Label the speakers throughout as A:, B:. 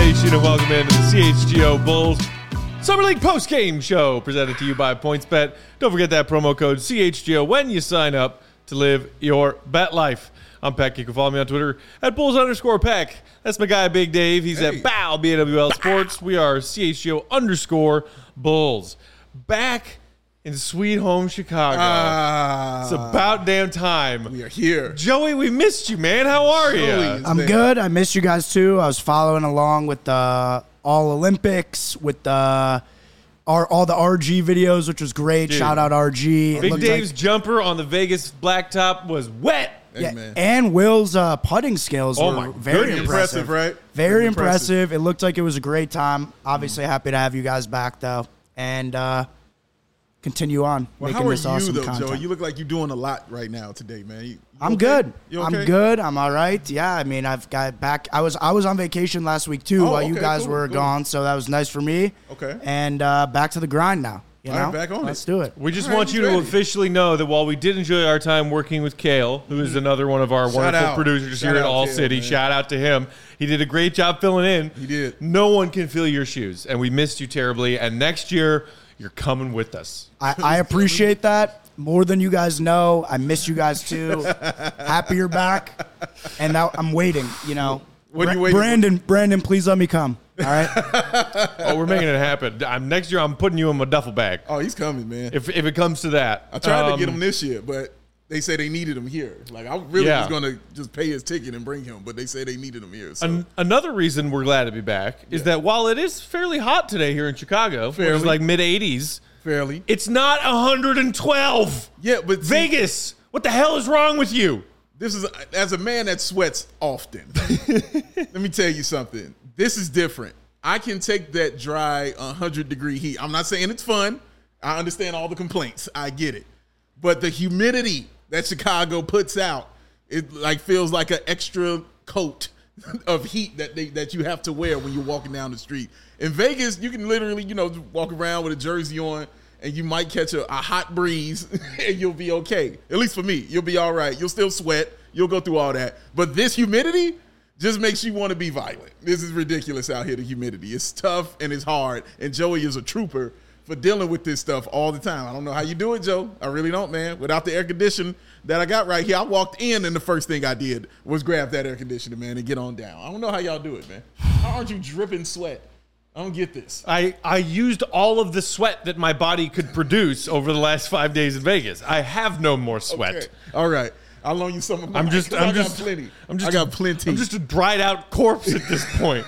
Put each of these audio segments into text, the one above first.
A: Nation, and welcome into the CHGO Bulls Summer League post-game show presented to you by PointsBet. Don't forget that promo code CHGO when you sign up to live your bet life. I'm Peck. You can follow me on Twitter at Bulls_Peck. That's my guy, Big Dave. He's at BAL, BAWL Sports. We are CHGO_Bulls. Back in sweet home Chicago. It's about damn time.
B: We are here.
A: Joey, we missed you, man. How are you?
C: I'm good. I missed you guys, too. I was following along with the All Olympics, with all the RG videos, which was great.
A: Dude.
C: Shout out RG.
A: Big Dave's jumper on the Vegas blacktop was wet.
C: Yeah, and Will's putting skills were very
B: impressive, right?
C: Very impressive. It looked like it was a great time. Obviously, happy to have you guys back, though. And continue on making this awesome content.
B: How are you, though, Joey? You look like you're doing a lot right now today, man. You
C: I'm
B: okay?
C: good.
B: You okay?
C: I'm good. I'm all right. Yeah, I mean, I've got back. I was on vacation last week, too, while you guys were gone, so that was nice for me.
B: Okay.
C: And back to the grind now. You know?
B: Right, back on
C: Let's do it.
A: We just want you to officially know that while we did enjoy our time working with Kale, who is another one of our wonderful producers here at All City, man. Shout out to him. He did a great job filling in.
B: He did.
A: No one can fill your shoes, and we missed you terribly. And next year, you're coming with us.
C: I appreciate that more than you guys know. I miss you guys too. Happy you're back. And now I'm waiting, you know.
B: What are you waiting
C: Brandon, please let me come. All right?
A: Oh, we're making it happen. Next year, I'm putting you in my duffel bag.
B: Oh, he's coming, man.
A: If it comes to that.
B: I tried to get him this year, but they say they needed him here. Like, I really was going to just pay his ticket and bring him, but they say they needed him here. So.
A: Another reason we're glad to be back is that while it is fairly hot today here in Chicago, which is like mid-80s,
B: it's
A: not 112.
B: Yeah, but
A: Vegas, what the hell is wrong with you?
B: This is, as a man that sweats often, let me tell you something. This is different. I can take that dry 100-degree heat. I'm not saying it's fun. I understand all the complaints. I get it. But the humidity that Chicago puts out, it like feels like an extra coat of heat that you have to wear when you're walking down the street. In Vegas, you can literally, walk around with a jersey on, and you might catch a hot breeze, and you'll be okay. At least for me, you'll be all right. You'll still sweat. You'll go through all that. But this humidity just makes you want to be violent. This is ridiculous out here, the humidity. It's tough and it's hard, and Joey is a trooper for dealing with this stuff all the time. I don't know how you do it, Joe. I really don't, man. Without the air conditioning that I got right here, I walked in, and the first thing I did was grab that air conditioner, man, and get on down. I don't know how y'all do it, man. How aren't you dripping sweat? I don't get this.
A: I used all of the sweat that my body could produce over the last 5 days in Vegas. I have no more sweat.
B: Okay. All right. I'll loan you some of mine. I got plenty. I got plenty.
A: I'm just a dried out corpse at this point.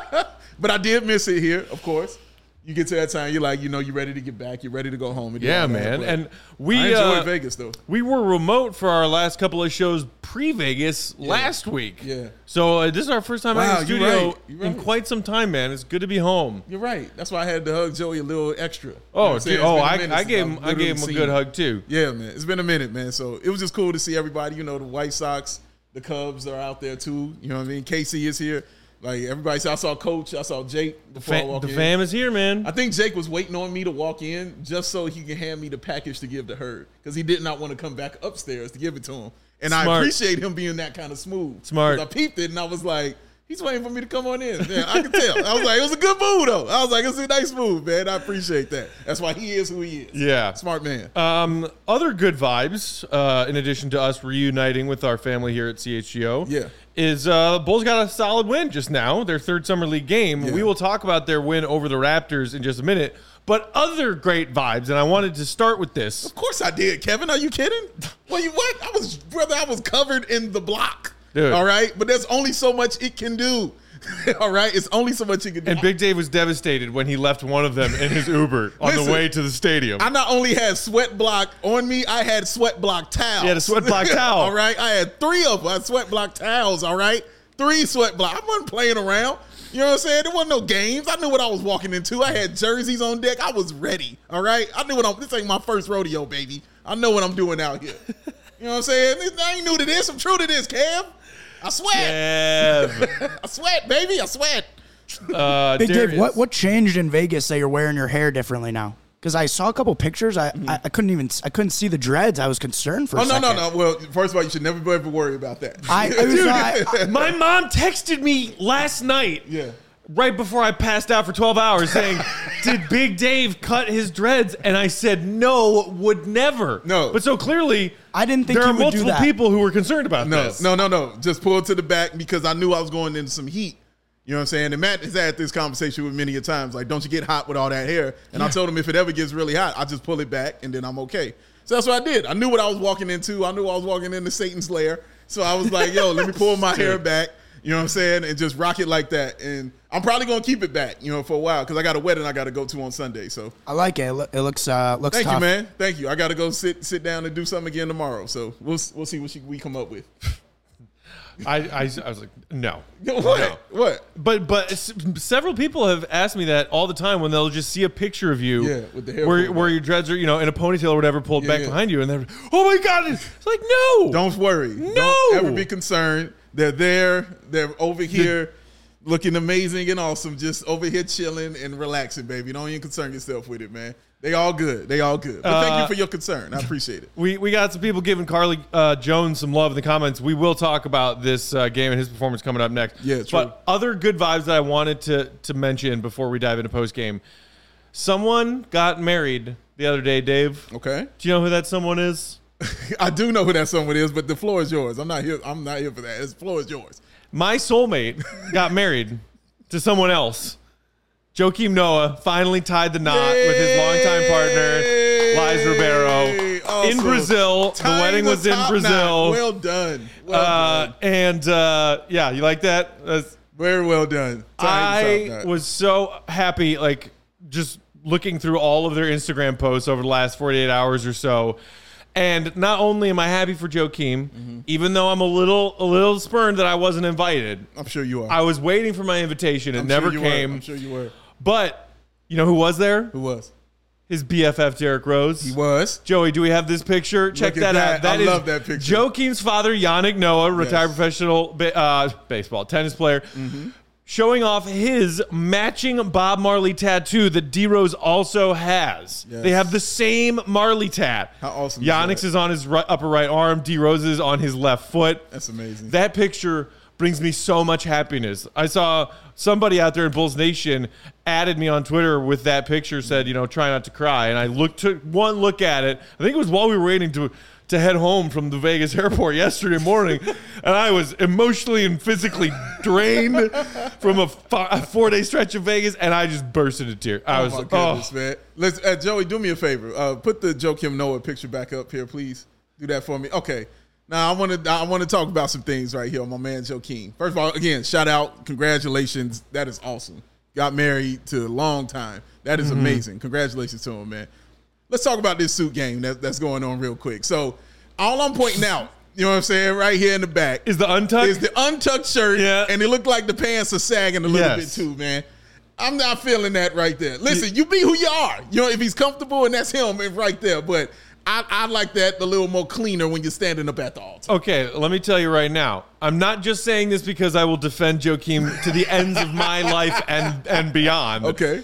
B: But I did miss it here, of course. You get to that time, you're like, you're ready to get back. You're ready to go home.
A: Yeah, man. And
B: I enjoyed Vegas, though.
A: We were remote for our last couple of shows pre-Vegas last week.
B: Yeah.
A: So this is our first time in the studio
B: in
A: quite some time, man. It's good to be home.
B: You're right. That's why I had to hug Joey a little extra.
A: I gave him a good hug, too.
B: Yeah, man. It's been a minute, man. So it was just cool to see everybody. The White Sox, the Cubs are out there, too. You know what I mean? Casey is here. Like, everybody, I saw Coach, I saw Jake before I walked in.
A: The fam is here, man.
B: I think Jake was waiting on me to walk in just so he can hand me the package to give to her, because he did not want to come back upstairs to give it to him. And I appreciate him being that kind of smooth.
A: Smart.
B: I peeped it, and I was like, he's waiting for me to come on in. Yeah, I can tell. I was like, it was a good move, though. I was like, it's a nice move, man. I appreciate that. That's why he is who he is.
A: Yeah.
B: Smart man.
A: Other good vibes, in addition to us reuniting with our family here at CHGO, is Bulls got a solid win just now, their third Summer League game. Yeah. We will talk about their win over the Raptors in just a minute. But other great vibes, and I wanted to start with this.
B: Of course I did, Kevin. Are you kidding? Well, what? I was covered in the block.
A: Dude.
B: All right? But there's only so much it can do. All right? It's only so much it can do.
A: And Big Dave was devastated when he left one of them in his Uber on the way to the stadium.
B: I not only had sweat block on me, I had sweat block towels.
A: You had a sweat block towel.
B: All right? I had 3 of them. I had sweat block towels, all right? 3 sweat block. I wasn't playing around. You know what I'm saying? There wasn't no games. I knew what I was walking into. I had jerseys on deck. I was ready, all right? I knew this ain't my first rodeo, baby. I know what I'm doing out here. You know what I'm saying? I ain't new to this. I'm true to this, Kev. I sweat. I sweat, baby. I sweat.
C: Big Dave, what changed in Vegas that you're wearing your hair differently now? Because I saw a couple pictures. I couldn't see the dreads. I was concerned for a second.
B: No. Well, first of all, you should never ever worry about that.
A: My mom texted me last night.
B: Yeah.
A: right before I passed out for 12 hours saying, did Big Dave cut his dreads? And I said, no, would never.
B: No.
A: But so clearly,
C: I didn't think
A: there are
C: you would do
A: multiple
C: that.
A: people who were concerned about this.
B: No. Just pull it to the back because I knew I was going into some heat. You know what I'm saying? And Matt has had this conversation with many a times. Like, don't you get hot with all that hair? And I told him if it ever gets really hot, I just pull it back and then I'm okay. So that's what I did. I knew what I was walking into. I knew I was walking into Satan's lair. So I was like, yo, let me pull my hair back. You know what I'm saying? And just rock it like that. And I'm probably going to keep it back, for a while because I got a wedding I got to go to on Sunday. So
C: I like it. It looks
B: Thank
C: tough.
B: you, man. Thank you. I got to go sit down and do something again tomorrow. So we'll see what we come up with.
A: I was like, no.
B: What?
A: But several people have asked me that all the time when they'll just see a picture of you
B: with the hair
A: where your dreads are, in a ponytail or whatever pulled back behind you. And they're, oh, my God. It's like, no.
B: Don't worry.
A: No.
B: Don't ever be concerned. They're there. They're over here looking amazing and awesome. Just over here chilling and relaxing, baby. Don't even concern yourself with it, man. They all good. But thank you for your concern. I appreciate it.
A: We got some people giving Carly Jones some love in the comments. We will talk about this game and his performance coming up next.
B: Yeah, true.
A: But other good vibes that I wanted to mention before we dive into post game. Someone got married the other day, Dave.
B: Okay.
A: Do you know who that someone is?
B: I do know who that someone is, but the floor is yours. I'm not here for that. The floor is yours.
A: My soulmate got married to someone else. Joakim Noah finally tied the knot with his longtime partner, Liz Ribeiro,
B: Awesome.
A: in Brazil. The wedding was in Brazil.
B: Well done.
A: And you like that? That's,
B: very well done.
A: I was so happy, like, just looking through all of their Instagram posts over the last 48 hours or so. And not only am I happy for Joakim, even though I'm a little spurned that I wasn't invited.
B: I'm sure you are.
A: I was waiting for my invitation. It never came.
B: I'm sure you were.
A: But you know who was there?
B: Who was?
A: His BFF, Derrick Rose.
B: He was.
A: Joey, do we have this picture? Check that out.
B: I love that picture.
A: Joakim's father, Yannick Noah, retired professional tennis player, showing off his matching Bob Marley tattoo that D-Rose also has. Yes. They have the same Marley tat.
B: How awesome
A: Yannick's is on his upper right arm. D-Rose is on his left foot.
B: That's amazing.
A: That picture brings me so much happiness. I saw somebody out there in Bulls Nation added me on Twitter with that picture, said, try not to cry. And I took one look at it. I think it was while we were waiting to head home from the Vegas airport yesterday morning. And I was emotionally and physically drained from a 4-day stretch of Vegas. And I just burst into tears. I was like,
B: goodness, man. Let's, Joey, do me a favor. Put the Joakim Noah picture back up here, please. Do that for me. Okay. Now, I want to talk about some things right here on my man Joakim. First of all, again, shout out. Congratulations. That is awesome. Got married to a long time. That is amazing. Congratulations to him, man. Let's talk about this suit game that's going on real quick. So, all I'm pointing out, you know what I'm saying, right here in the back.
A: Is the
B: untucked shirt, and it looked like the pants are sagging a little bit too, man. I'm not feeling that right there. Listen, you be who you are. If he's comfortable and that's him right there. But I like that a little more cleaner when you're standing up at the altar.
A: Okay, let me tell you right now. I'm not just saying this because I will defend Joakim to the ends of my life and beyond.
B: Okay.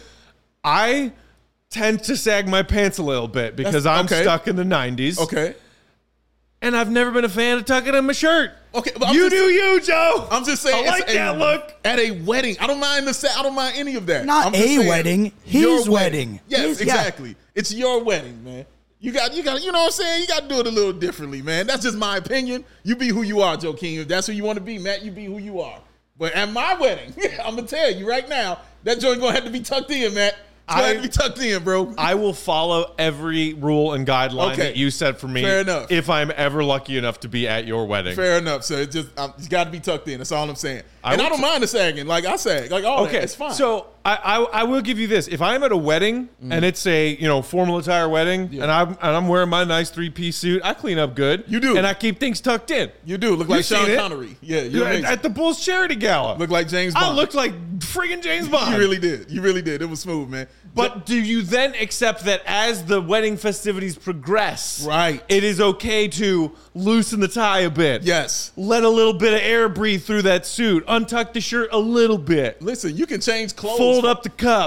A: I tend to sag my pants a little bit because I'm stuck in the 90s.
B: Okay.
A: And I've never been a fan of tucking in my shirt.
B: Okay,
A: you do you, Joe.
B: I'm just saying.
A: I like that look.
B: At a wedding, I don't mind I don't mind any of that.
C: Not a wedding, his wedding.
B: Yes, exactly. Yeah. It's your wedding, man. You got. You know what I'm saying? You got to do it a little differently, man. That's just my opinion. You be who you are, Joakim. If that's who you want to be, Matt, you be who you are. But at my wedding, I'm gonna tell you right now, that joint gonna have to be tucked in, Matt. It's gonna have to be tucked in, bro.
A: I will follow every rule and guideline that you set for me.
B: Fair enough.
A: If I'm ever lucky enough to be at your wedding.
B: Fair enough. So it's got to be tucked in. That's all I'm saying. I don't mind the sagging. Like I sag, like all that. It's fine.
A: So I will give you this. If I'm at a wedding and it's a formal attire wedding and I'm wearing my nice 3-piece suit, I clean up good.
B: You do,
A: and I keep things tucked in.
B: You do look like Sean Connery. Yeah, you're
A: at the Bulls charity gala.
B: Look like James Bond.
A: I looked like friggin' James Bond.
B: You really did. You really did. It was smooth, man.
A: But do you then accept that as the wedding festivities progress,
B: right,
A: it is okay to loosen the tie a bit?
B: Yes.
A: Let a little bit of air breathe through that suit. Untuck the shirt a little bit.
B: Listen, you can change clothes.
A: Fold up the cuffs.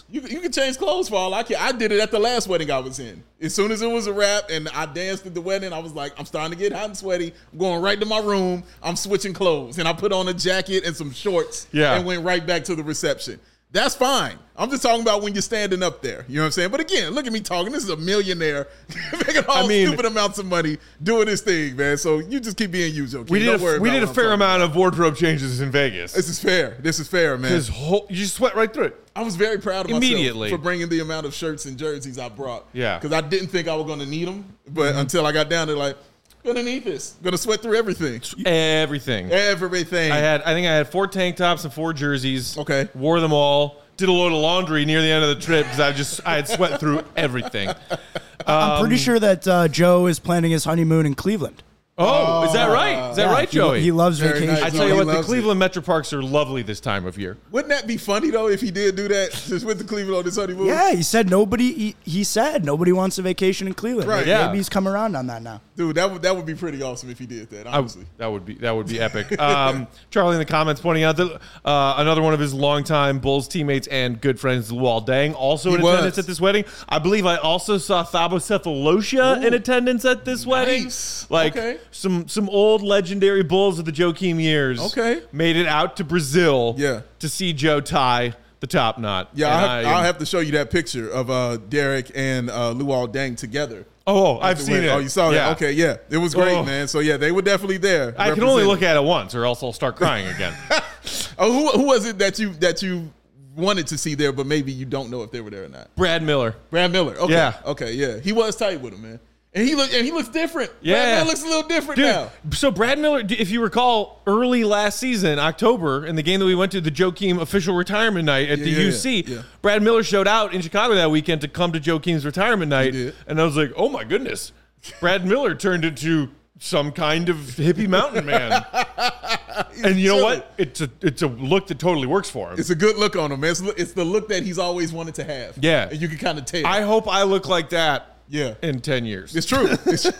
B: You can change clothes for all I care. I did it at the last wedding I was in. As soon as it was a wrap and I danced at the wedding, I was like, I'm starting to get hot and sweaty. I'm going right to my room. I'm switching clothes. And I put on a jacket and some shorts and went right back to the reception. That's fine. I'm just talking about when you're standing up there. You know what I'm saying? But again, look at me talking. This is a millionaire making stupid amounts of money doing this thing, man. So you just keep being you, Joe.
A: We did a fair amount of wardrobe changes in Vegas.
B: This is fair, man.
A: You just sweat right through it.
B: I was very proud of myself for bringing the amount of shirts and jerseys I brought.
A: Yeah.
B: Because I didn't think I was going to need them. But until I got down there, like, gonna need this. Gonna sweat through everything.
A: Everything.
B: I
A: think I had 4 tank tops and 4 jerseys.
B: Okay.
A: Wore them all. Did a load of laundry near the end of the trip because I had sweat through everything.
C: I'm pretty sure that Joe is planning his honeymoon in Cleveland.
A: Oh, is that right? Is that right, Joey?
C: He loves vacation.
A: I tell you what, the Cleveland Metro Parks are lovely this time of year.
B: Wouldn't that be funny though if he did do that? Just went to Cleveland on his honeymoon.
C: Yeah, he said nobody. He said nobody wants a vacation in Cleveland.
B: Right.
C: Yeah. Maybe he's come around on that now.
B: Dude, that would be pretty awesome if he did that. Honestly,
A: that would be epic. Charlie in the comments pointing out that another one of his longtime Bulls teammates and good friends, Luol Deng, also in attendance at this wedding. I believe I also saw Thabo Sefolosha in attendance at this wedding. Like some old legendary Bulls of the Joakim years. Made it out to Brazil. To see Joe tie the top knot.
B: Yeah, I'll have to show you that picture of Derek and Luol Deng together.
A: Oh, I've seen it.
B: Oh, you saw that? Okay, yeah. It was great, man. So, yeah, they were definitely there.
A: I can only look at it once or else I'll start crying again.
B: Who was it that you wanted to see there, but maybe you don't know if they were there or not?
A: Brad Miller.
B: Okay. Yeah. Okay, yeah. He was tight with him, man. And he looks different.
A: Yeah.
B: Brad Miller looks a little different now.
A: So Brad Miller, if you recall, early last season, October, in the game that we went to, the Joakim official retirement night at the UC, Brad Miller showed out in Chicago that weekend to come to Joakim's retirement night. And I was like, oh my goodness, Brad Miller turned into some kind of hippie mountain man. And you know what? It's a look that totally works for him.
B: It's a good look on him, man. It's the look that he's always wanted to have.
A: Yeah.
B: And you can kind of tell.
A: I hope I look like that.
B: Yeah,
A: in 10 years.
B: It's true.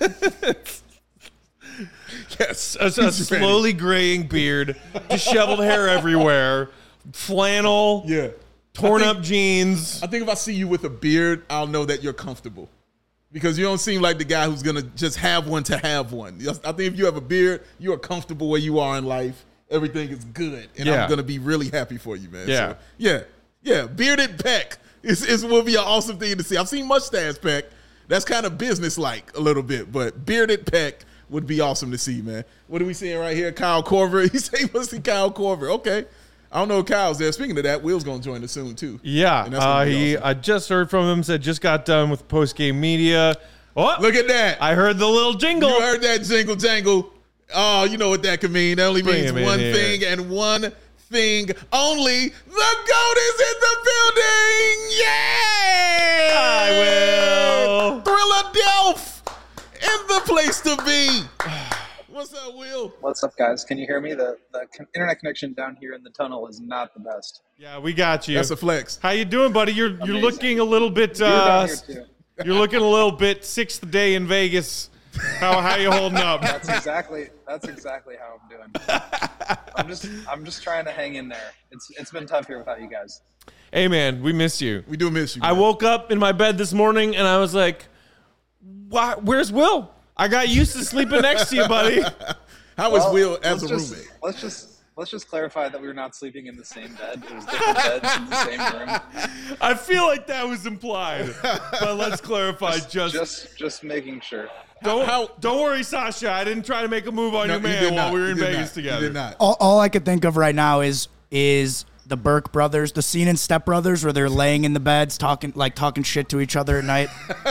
A: Yes, a slowly graying beard, disheveled hair everywhere, flannel, torn up jeans.
B: I think if I see you with a beard, I'll know that you're comfortable. Because you don't seem like the guy who's going to just have one to have one. I think if you have a beard, you are comfortable where you are in life. Everything is good. And I'm going to be really happy for you, man.
A: Yeah.
B: So, yeah. Bearded Peck will be an awesome thing to see. I've seen mustache Peck. That's kind of business-like a little bit, but bearded Peck would be awesome to see, man. What are we seeing right here? Kyle Korver. He said he wants to see Kyle Korver. Okay. I don't know if Kyle's there. Speaking of that, Will's going to join us soon, too.
A: Yeah. Awesome. I just heard from him, said just got done with post-game media. Oh,
B: look at that.
A: I heard the little jingle.
B: You heard that jingle jangle. Oh, you know what that could mean. That only means one thing and one thing only. The GOAT is in the building. Yay!
A: I will.
B: Thriller Delph in the place to be. What's up, Will?
D: What's up, guys? Can you hear me? The internet connection down here in the tunnel is not the best.
A: Yeah, we got you.
B: That's a flex.
A: How you doing, buddy? You're looking a little bit. You're looking a little bit sixth day in Vegas. How you holding up?
D: That's exactly how I'm doing. I'm just trying to hang in there. It's been tough here without you guys.
A: Hey man, we miss you.
B: We do miss you, man.
A: I woke up in my bed this morning and I was like, where's Will? I got used to sleeping next to you, buddy.
B: How was Will as a roommate?
D: Let's just clarify that we were not sleeping in the same bed. It was different beds in the same room.
A: I feel like that was implied, but let's clarify.
D: Just making sure.
A: Don't worry, Sasha. I didn't try to make a move on your man while we were in Vegas together.
B: You did not.
C: All I could think of right now is the Burke brothers, the scene in Step Brothers where they're laying in the beds talking shit to each other at night.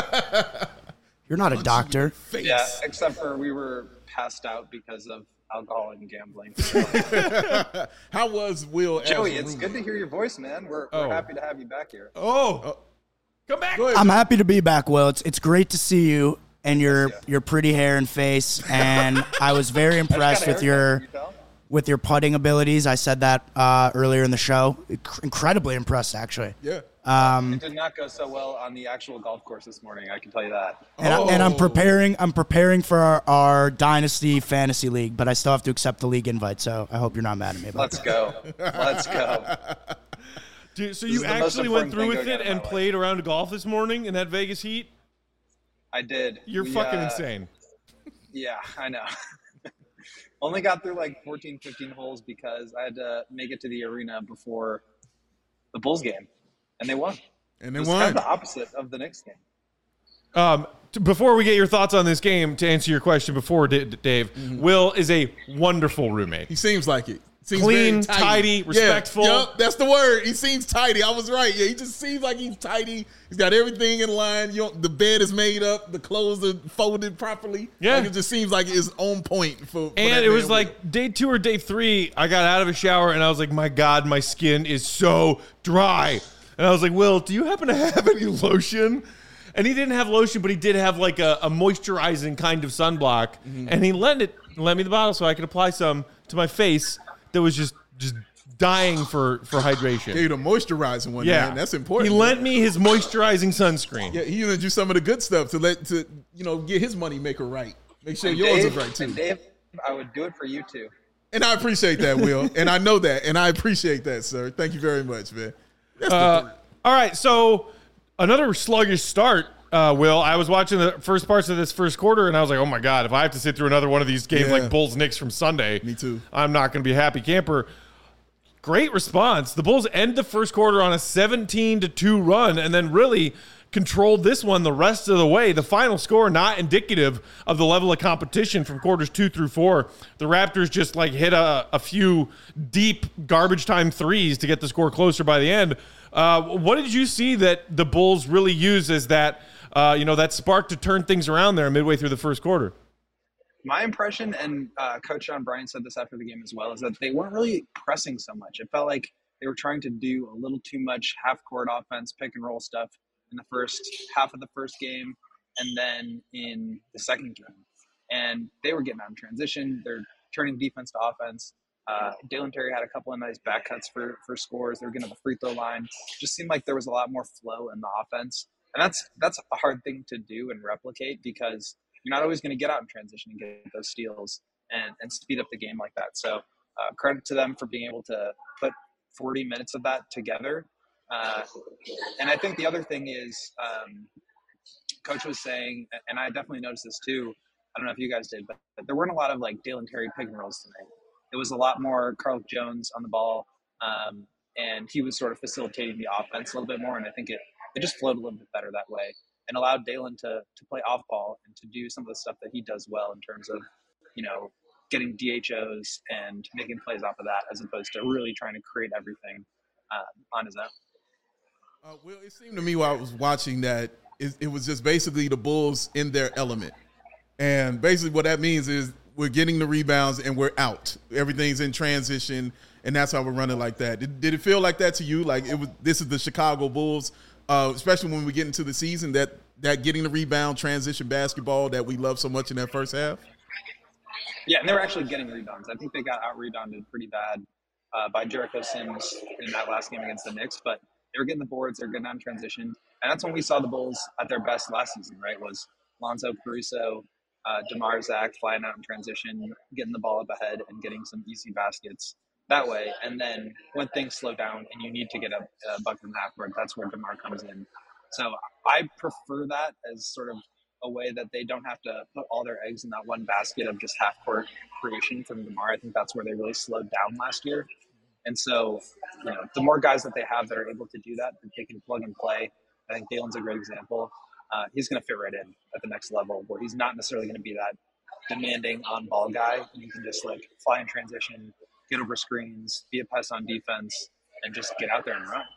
C: You're not a doctor.
D: Yeah, except for we were passed out because of alcohol and gambling.
B: How was Will as
D: Joey,
B: a
D: it's
B: roommate?
D: good to hear your voice, man. We're happy to have you back here.
A: Come back.
C: I'm happy to be back, Will. It's great to see you and your pretty hair and face, and I was very impressed with your putting abilities. I said that earlier in the show. Incredibly impressed, actually.
B: Yeah.
D: It did not go so well on the actual golf course this morning, I can tell you that.
C: And I'm preparing for our Dynasty Fantasy League, but I still have to accept the league invite, so I hope you're not mad at me about
D: Let's go.
A: Dude, so
D: This
A: you
D: is the most
A: actually went
D: important
A: through
D: thing
A: with
D: going
A: it
D: on in my
A: and
D: life.
A: played around golf this morning in that Vegas heat?
D: I did.
A: You're
D: We,
A: fucking insane.
D: Yeah, I know. Only got through like 14, 15 holes because I had to make it to the arena before the Bulls game, and they won.
B: And they
D: It's
B: won.
D: kind of the opposite of the Knicks game.
A: Before we get your thoughts on this game, to answer your question before, Dave,
B: Mm-hmm.
A: Will is a wonderful roommate.
B: He seems like it. Seems
A: Clean,
B: very
A: tidy, respectful.
B: Yeah, yep, that's the word. He seems tidy. I was right. Yeah, he just seems like he's tidy. He's got everything in line. The bed is made up. The clothes are folded properly.
A: Yeah.
B: Like, it just seems like it's on point for
A: And
B: that
A: it was
B: man.
A: like day 2 or day 3, I got out of a shower and I was like, my God, my skin is so dry. And I was like, Will, do you happen to have any lotion? And he didn't have lotion, but he did have like a moisturizing kind of sunblock.
B: Mm-hmm.
A: And he lent me the bottle so I could apply some to my face that was just dying for hydration.
B: Gave you the moisturizing one,
A: Yeah.
B: man. That's important.
A: He lent me his moisturizing sunscreen.
B: Yeah, he even do some of the good stuff to get his money maker right. Make sure
D: And
B: yours
D: Dave,
B: is right too.
D: And Dave, I would do it for you too.
B: And I appreciate that, Will. And I know that. And I appreciate that, sir. Thank you very much, man. That's the
A: All right, so another sluggish start, Will. I was watching the first parts of this first quarter, and I was like, oh, my God, if I have to sit through another one of these games
B: Yeah.
A: like Bulls-Knicks from Sunday,
B: Me too.
A: I'm not going to be a happy camper. Great response. The Bulls end the first quarter on a 17-2 run and then really controlled this one the rest of the way. The final score not indicative of the level of competition from quarters 2 through 4. The Raptors just like hit a few deep garbage time threes to get the score closer by the end. What did you see that the Bulls really used as that that spark to turn things around there midway through the first quarter?
D: My impression, and Coach John Bryant said this after the game as well, is that they weren't really pressing so much. It felt like they were trying to do a little too much half-court offense, pick-and-roll stuff in the first half of the first game and then in the second game. And they were getting out in transition. They're turning defense to offense. Dalen Terry had a couple of nice back cuts for scores. They were getting to the free throw line. Just seemed like there was a lot more flow in the offense. And that's a hard thing to do and replicate because you're not always going to get out in transition and get those steals and speed up the game like that. So credit to them for being able to put 40 minutes of that together. And I think the other thing is Coach was saying, and I definitely noticed this too, I don't know if you guys did, but there weren't a lot of like Dalen Terry pick and rolls tonight. It was a lot more Carl Jones on the ball, and he was sort of facilitating the offense a little bit more, and I think it just flowed a little bit better that way and allowed Dalen to play off ball and to do some of the stuff that he does well in terms of, getting DHOs and making plays off of that as opposed to really trying to create everything on his own.
B: Well, it seemed to me while I was watching that it was just basically the Bulls in their element. And basically what that means is we're getting the rebounds and we're out. Everything's in transition, and that's how we're running like that. Did it feel like that to you? Like this is the Chicago Bulls, especially when we get into the season, that getting the rebound, transition basketball that we love so much in that first half?
D: Yeah, and they were actually getting rebounds. I think they got out-rebounded pretty bad by Jericho Sims in that last game against the Knicks, but they were getting the boards, they were getting out in transition. And that's when we saw the Bulls at their best last season, right, was Lonzo Caruso, DeMar Zach flying out in transition, getting the ball up ahead and getting some easy baskets that way. And then when things slow down and you need to get a bucket in the half court, that's where DeMar comes in. So I prefer that as sort of a way that they don't have to put all their eggs in that one basket of just half-court creation from DeMar. I think that's where they really slowed down last year. And so, the more guys that they have that are able to do that they can plug and play, I think Dalen's a great example. He's going to fit right in at the next level where he's not necessarily going to be that demanding on-ball guy. And you can just, fly in transition, get over screens, be a pest on defense, and just get out there and run.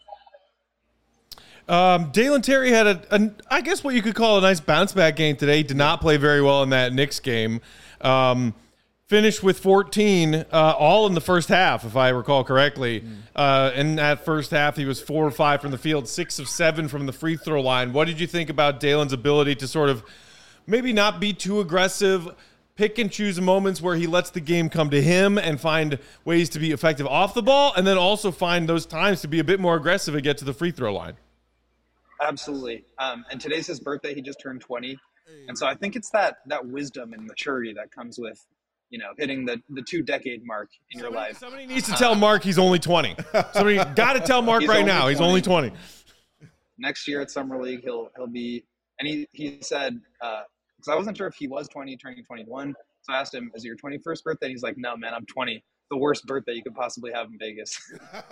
A: Dalen Terry had I guess what you could call a nice bounce back game today. Did not play very well in that Knicks game. Finished with 14, all in the first half, if I recall correctly. In that first half, he was 4 or 5 from the field, 6 of 7 from the free throw line. What did you think about Dalen's ability to sort of maybe not be too aggressive, pick and choose moments where he lets the game come to him and find ways to be effective off the ball, and then also find those times to be a bit more aggressive and get to the free throw line?
D: Absolutely. And today's his birthday. He just turned 20. And so I think it's that wisdom and maturity that comes with hitting the 2-decade mark in your life.
A: Somebody needs to tell Mark he's only 20. Somebody got to tell Mark right now he's only 20.
D: Next year at Summer League, he'll be, and he said, because I wasn't sure if he was 20, turning 21. So I asked him, is it your 21st birthday? He's like, no, man, I'm 20. The worst birthday you could possibly have in Vegas.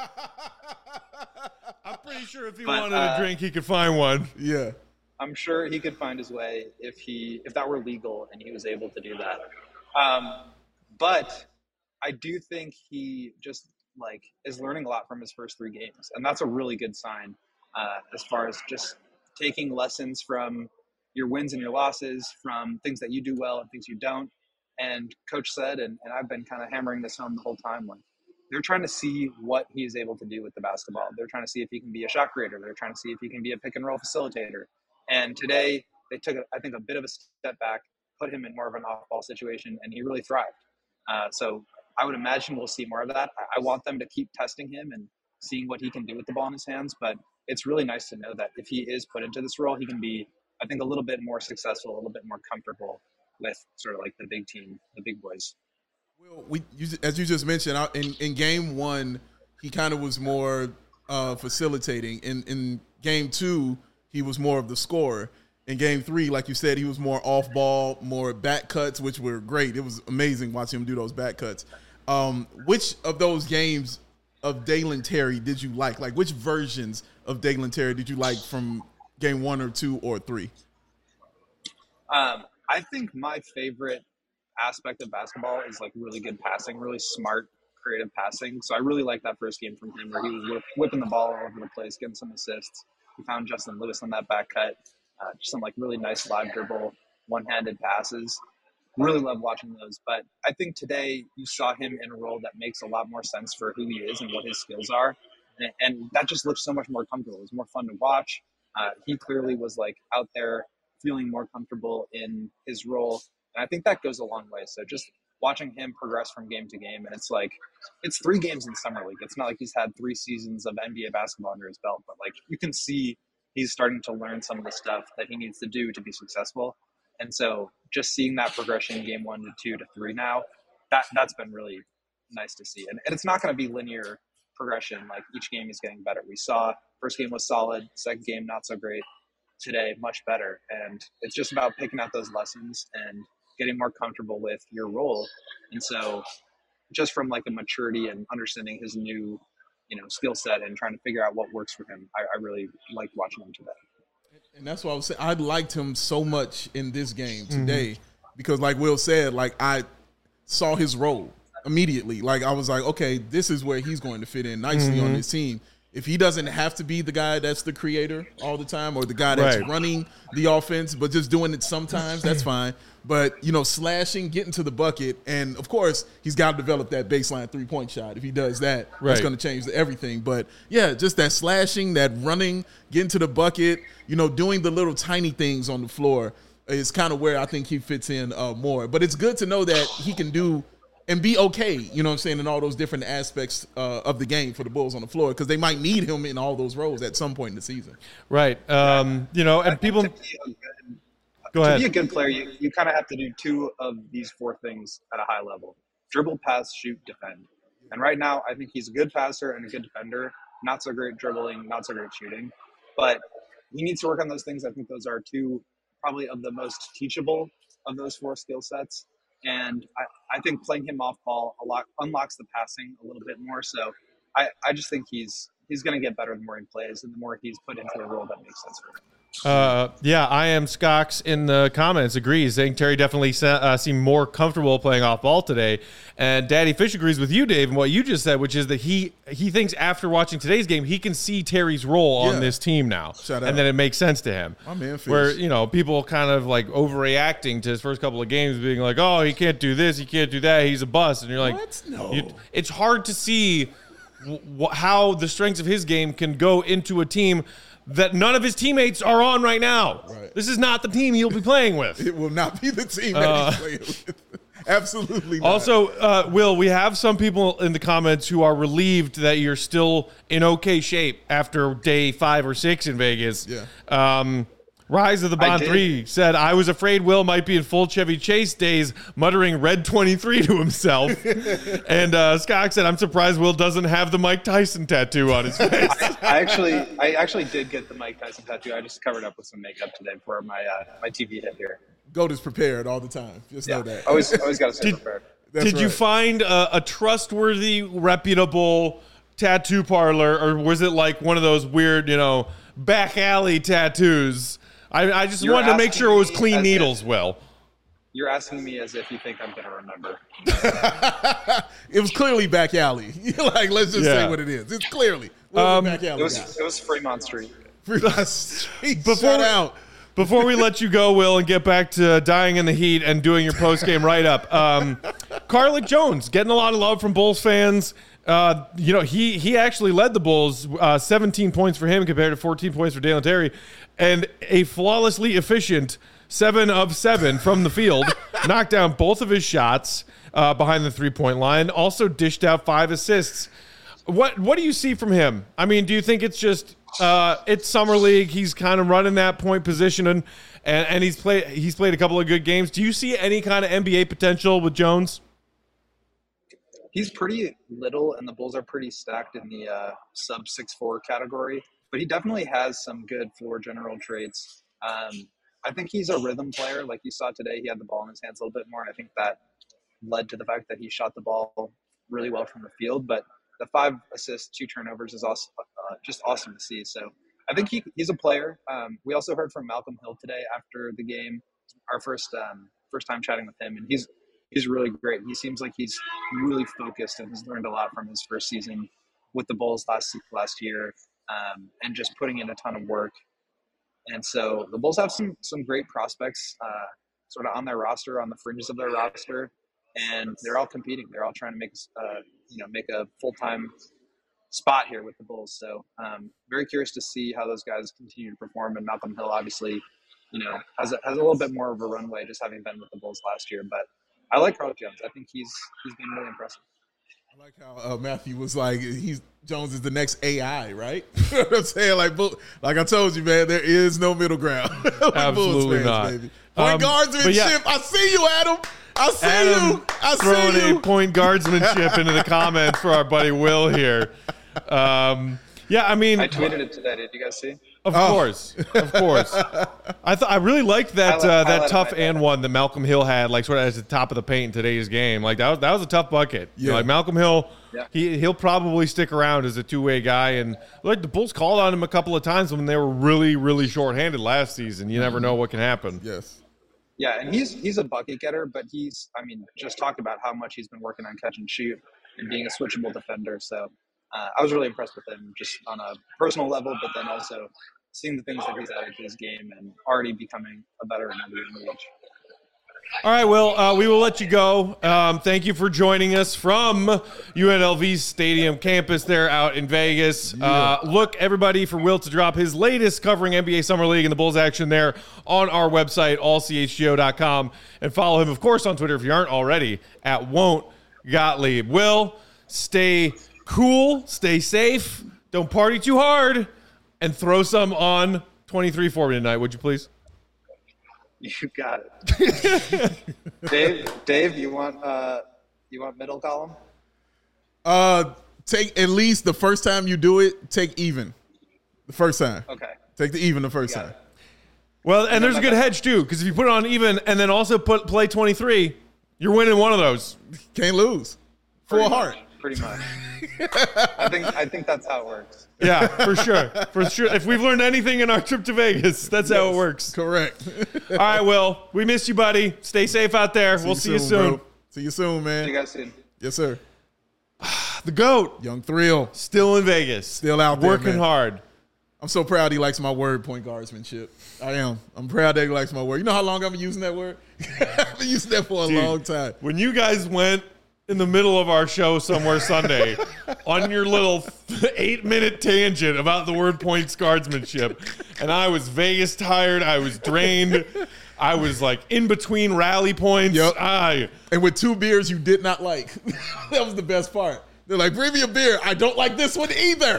A: I'm pretty sure if he wanted a drink, he could find one.
B: Yeah.
D: I'm sure he could find his way if that were legal and he was able to do that. But I do think he just is learning a lot from his first 3 games. And that's a really good sign as far as just taking lessons from your wins and your losses, from things that you do well and things you don't. And Coach said, and I've been kind of hammering this home the whole time, they're trying to see what he is able to do with the basketball. They're trying to see if he can be a shot creator. They're trying to see if he can be a pick and roll facilitator. And today they took, I think, a bit of a step back, put him in more of an off-ball situation, and he really thrived. So I would imagine we'll see more of that. I want them to keep testing him and seeing what he can do with the ball in his hands. But it's really nice to know that if he is put into this role, he can be, I think, a little bit more successful, a little bit more comfortable with sort of the big team, the big boys.
B: Well, as you just mentioned, in game 1, he kind of was more facilitating. In game 2, he was more of the scorer. In game 3, like you said, he was more off ball, more back cuts, which were great. It was amazing watching him do those back cuts. Which of those games of Dalen Terry did you like? Like, which versions of Dalen Terry did you like from game 1 or 2 or 3?
D: I think my favorite aspect of basketball is really good passing, really smart, creative passing. So I really like that first game from him where he was whipping the ball all over the place, getting some assists. He found Justin Lewis on that back cut. Just some really nice live dribble, one-handed passes. Really love watching those. But I think today you saw him in a role that makes a lot more sense for who he is and what his skills are. And that just looks so much more comfortable. It was more fun to watch. He clearly was out there feeling more comfortable in his role. And I think that goes a long way. So just watching him progress from game to game, and it's 3 games in Summer League. It's not like he's had 3 seasons of NBA basketball under his belt, but you can see he's starting to learn some of the stuff that he needs to do to be successful. And so just seeing that progression game 1 to 2 to 3 now, that's been really nice to see. And it's not going to be linear progression. Each game is getting better. We saw first game was solid, second game not so great. Today much better. And it's just about picking out those lessons and getting more comfortable with your role. And so just from a maturity and understanding his new skill set and trying to figure out what works for him, I really liked watching him today.
B: And that's why I was saying I liked him so much in this game today because like Will said, I saw his role immediately. I was like, okay, this is where he's going to fit in nicely on this team. If he doesn't have to be the guy that's the creator all the time or the guy that's running the offense, but just doing it sometimes, that's fine. But, slashing, getting to the bucket, and, of course, he's got to develop that baseline three-point shot. If he does that, that's going to change everything. But, yeah, just that slashing, that running, getting to the bucket, doing the little tiny things on the floor is kind of where I think he fits in more. But it's good to know that he can do and be okay, in all those different aspects of the game for the Bulls on the floor because they might need him in all those roles at some point in the season.
A: Right. And people – go ahead.
D: To be a good player, you kind of have to do 2 of these 4 things at a high level. Dribble, pass, shoot, defend. And right now, I think he's a good passer and a good defender. Not so great dribbling, not so great shooting. But he needs to work on those things. I think those are 2 probably of the most teachable of those 4 skill sets. And I think playing him off ball a lot unlocks the passing a little bit more. So I just think he's going to get better the more he plays and the more he's put into a role that makes sense for him.
A: I am Scox in the comments agrees, saying Terry definitely seemed more comfortable playing off ball today. And Daddy Fish agrees with you, Dave, and what you just said, which is that he thinks after watching today's game, he can see Terry's role on this team now. And then it makes sense to him.
B: My man Fish.
A: Where, people kind of overreacting to his first couple of games being like, oh, he can't do this, he can't do that, he's a bust. And you're like,
B: what? No.
A: It's hard to see how the strengths of his game can go into a team that none of his teammates are on right now.
B: Right.
A: This is not the team he'll be playing with.
B: It will not be the team that he's playing with. Absolutely not.
A: Also, Will, we have some people in the comments who are relieved that you're still in okay shape after day 5 or 6 in Vegas.
B: Yeah.
A: Rise of the Bond
D: did.
A: 3 said, I was afraid Will might be in full Chevy Chase days, muttering Red 23 to himself. And Scott said, I'm surprised Will doesn't have the Mike Tyson tattoo on his face.
D: I actually did get the Mike Tyson tattoo. I just covered up with some makeup today for my my TV hit here.
B: Goat is prepared all the time. Just know that.
D: Always got to stay prepared.
A: Did you find a trustworthy, reputable tattoo parlor, or was it like one of those weird, back alley tattoos? I just wanted to make sure it was clean needles, Will.
D: You're asking me as if you think I'm going to remember.
B: It was clearly back alley. Like, let's just say what it is. It's clearly back alley.
D: It was Fremont Street.
B: Fremont Street. Shout out.
A: Before we let you go, Will, and get back to dying in the heat and doing your post-game write-up, Carlik Jones getting a lot of love from Bulls fans. He actually led the Bulls, 17 points for him compared to 14 points for Dalen Terry, and a flawlessly efficient 7 of 7 from the field, knocked down both of his shots behind the three-point line, also dished out 5 assists. What do you see from him? I mean, do you think it's just it's summer league? He's kind of running that point position, and he's played a couple of good games. Do you see any kind of NBA potential with Jones?
D: He's pretty little, and the Bulls are pretty stacked in the sub 6'4" category. But he definitely has some good floor general traits. I think he's a rhythm player. Like you saw today, he had the ball in his hands a little bit more, and I think that led to the fact that he shot the ball really well from the field. But the 5 assists, 2 turnovers is also just awesome to see. So I think he's a player. We also heard from Malcolm Hill today after the game, our first time chatting with him, and he's really great. He seems like he's really focused and has learned a lot from his first season with the Bulls last year, and just putting in a ton of work. And so the Bulls have some great prospects sort of on their roster, on the fringes of their roster, and they're all competing. They're all trying to make a full-time spot here with the Bulls. So very curious to see how those guys continue to perform. And Malcolm Hill obviously, has a little bit more of a runway just having been with the Bulls last year. But I like Carlik Jones. I think he's been really impressive.
B: I like how Matthew was like, Jones is the next AI, right? You know what I'm saying? Like I told you, man, there is no middle ground.
A: Absolutely
B: fans,
A: not.
B: Baby. Point guardsmanship. I see you, Adam. I see
A: throwing
B: you.
A: a point guardsmanship into the comments for our buddy Will here. I mean,
D: I tweeted it today. Did you guys see?
A: Of course. I really liked that that tough and one that Malcolm Hill had, like sort of at the top of the paint in today's game. Like that was a tough bucket.
B: Yeah.
A: Like Malcolm Hill, he'll probably stick around as a two-way guy. And like the Bulls called on him a couple of times when they were really, really shorthanded last season. You never know what can happen.
B: Yes.
D: Yeah, and he's a bucket getter, but just talked about how much he's been working on catch and shoot and being a switchable defender. So I was really impressed with him just on a personal level, but then also seeing the things that he's added to his game and already becoming a better and better age.
A: All right, Will, we will let you go. Thank you for joining us from UNLV's stadium campus there out in Vegas. Look, everybody, for Will to drop his latest covering NBA Summer League and the Bulls action there on our website, allchgo.com. And follow him, of course, on Twitter if you aren't already, at Won't Gottlieb. Will, stay cool, stay safe, don't party too hard, and throw some on 23 for me tonight, would you please?
D: You got it. Dave, you want middle column?
B: Take at least the first time you do it, take even. The first time.
D: Okay.
B: Take the even the first time.
A: Well, and there's a good hedge too, because if you put it on even and then also play 23, you're winning one of those.
B: Can't lose. Full heart.
D: Pretty much. I think that's how it works.
A: Yeah, for sure. For sure. If we've learned anything in our trip to Vegas, that's how it works.
B: Correct.
A: All right, Will. We missed you, buddy. Stay safe out there. We'll see you soon.
B: Bro. See you soon, man.
D: See you guys soon.
B: Yes, sir.
A: The GOAT.
B: Young Thrill.
A: Still in Vegas.
B: Still out there,
A: working
B: man.
A: hard.
B: I'm so proud he likes my word, point guardsmanship. I am. I'm proud that he likes my word. You know how long I've been using that word? I've been using that for a long time.
A: When you guys went in the middle of our show somewhere Sunday on your little 8-minute tangent about the word points guardsmanship, and I was Vegas tired, I was drained, I was like in between rally points.
B: Yep. And with 2 beers you did not like. That was the best part. They're like, bring me a beer. I don't like this one either.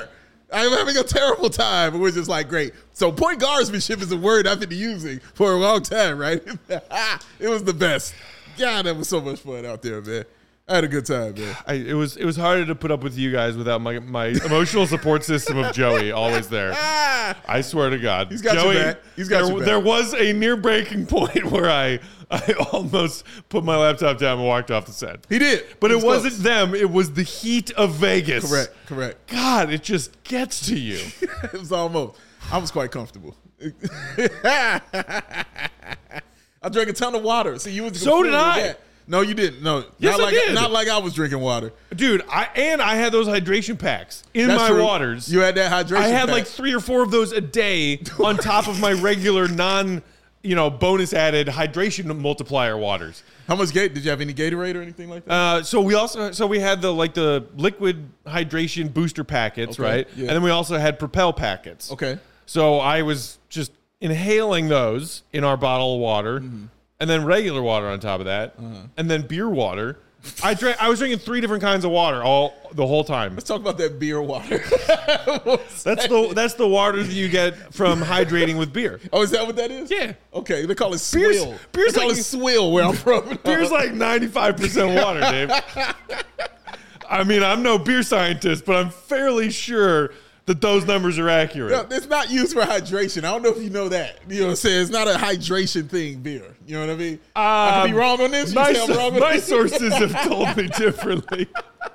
B: I'm having a terrible time. And we're just like, great. So point guardsmanship is a word I've been using for a long time, right? It was the best. God, that was so much fun out there, man. I had a good time, man.
A: It was harder to put up with you guys without my emotional support system of Joey always there. I swear to God.
B: He's got
A: Joey,
B: your back. He's got your back.
A: There was a near breaking point where I almost put my laptop down and walked off the set.
B: He did.
A: But it
B: was
A: wasn't them. It was the heat of Vegas.
B: Correct.
A: God, it just gets to you.
B: It was almost. I was quite comfortable. I drank a ton of water. See, you was
A: So did I.
B: That. No, you didn't. No,
A: Yes, I did.
B: Not like I was drinking water,
A: Dude. I had those hydration packs in
B: That's
A: my
B: true.
A: waters.
B: You had that hydration.
A: I had
B: pack.
A: like 3 or 4 of those a day on top of my regular bonus added hydration multiplier waters.
B: How much did you have any Gatorade or anything like that?
A: So we had the liquid hydration booster packets,
B: Okay,
A: right?
B: yeah.
A: And then we also had Propel packets.
B: Okay.
A: So I was just inhaling those in our bottle of water, and then regular water on top of that, and then beer water. I was drinking 3 different kinds of water the whole time.
B: Let's talk about that beer water.
A: That's the water that you get from hydrating with beer.
B: Oh, is that what that is?
A: Yeah.
B: Okay, they call it
A: Beer's-
B: swill.
A: beer's
B: they call
A: like-
B: it swill where I'm from.
A: Beer's like 95% water, Dave. I mean, I'm no beer scientist, but I'm fairly sure that those numbers are accurate.
B: No, it's not used for hydration. I don't know if you know that. You know what I'm saying? It's not a hydration thing, beer. You know what I mean? I could be wrong on this. You say I'm wrong on
A: My
B: this?
A: sources have told me differently.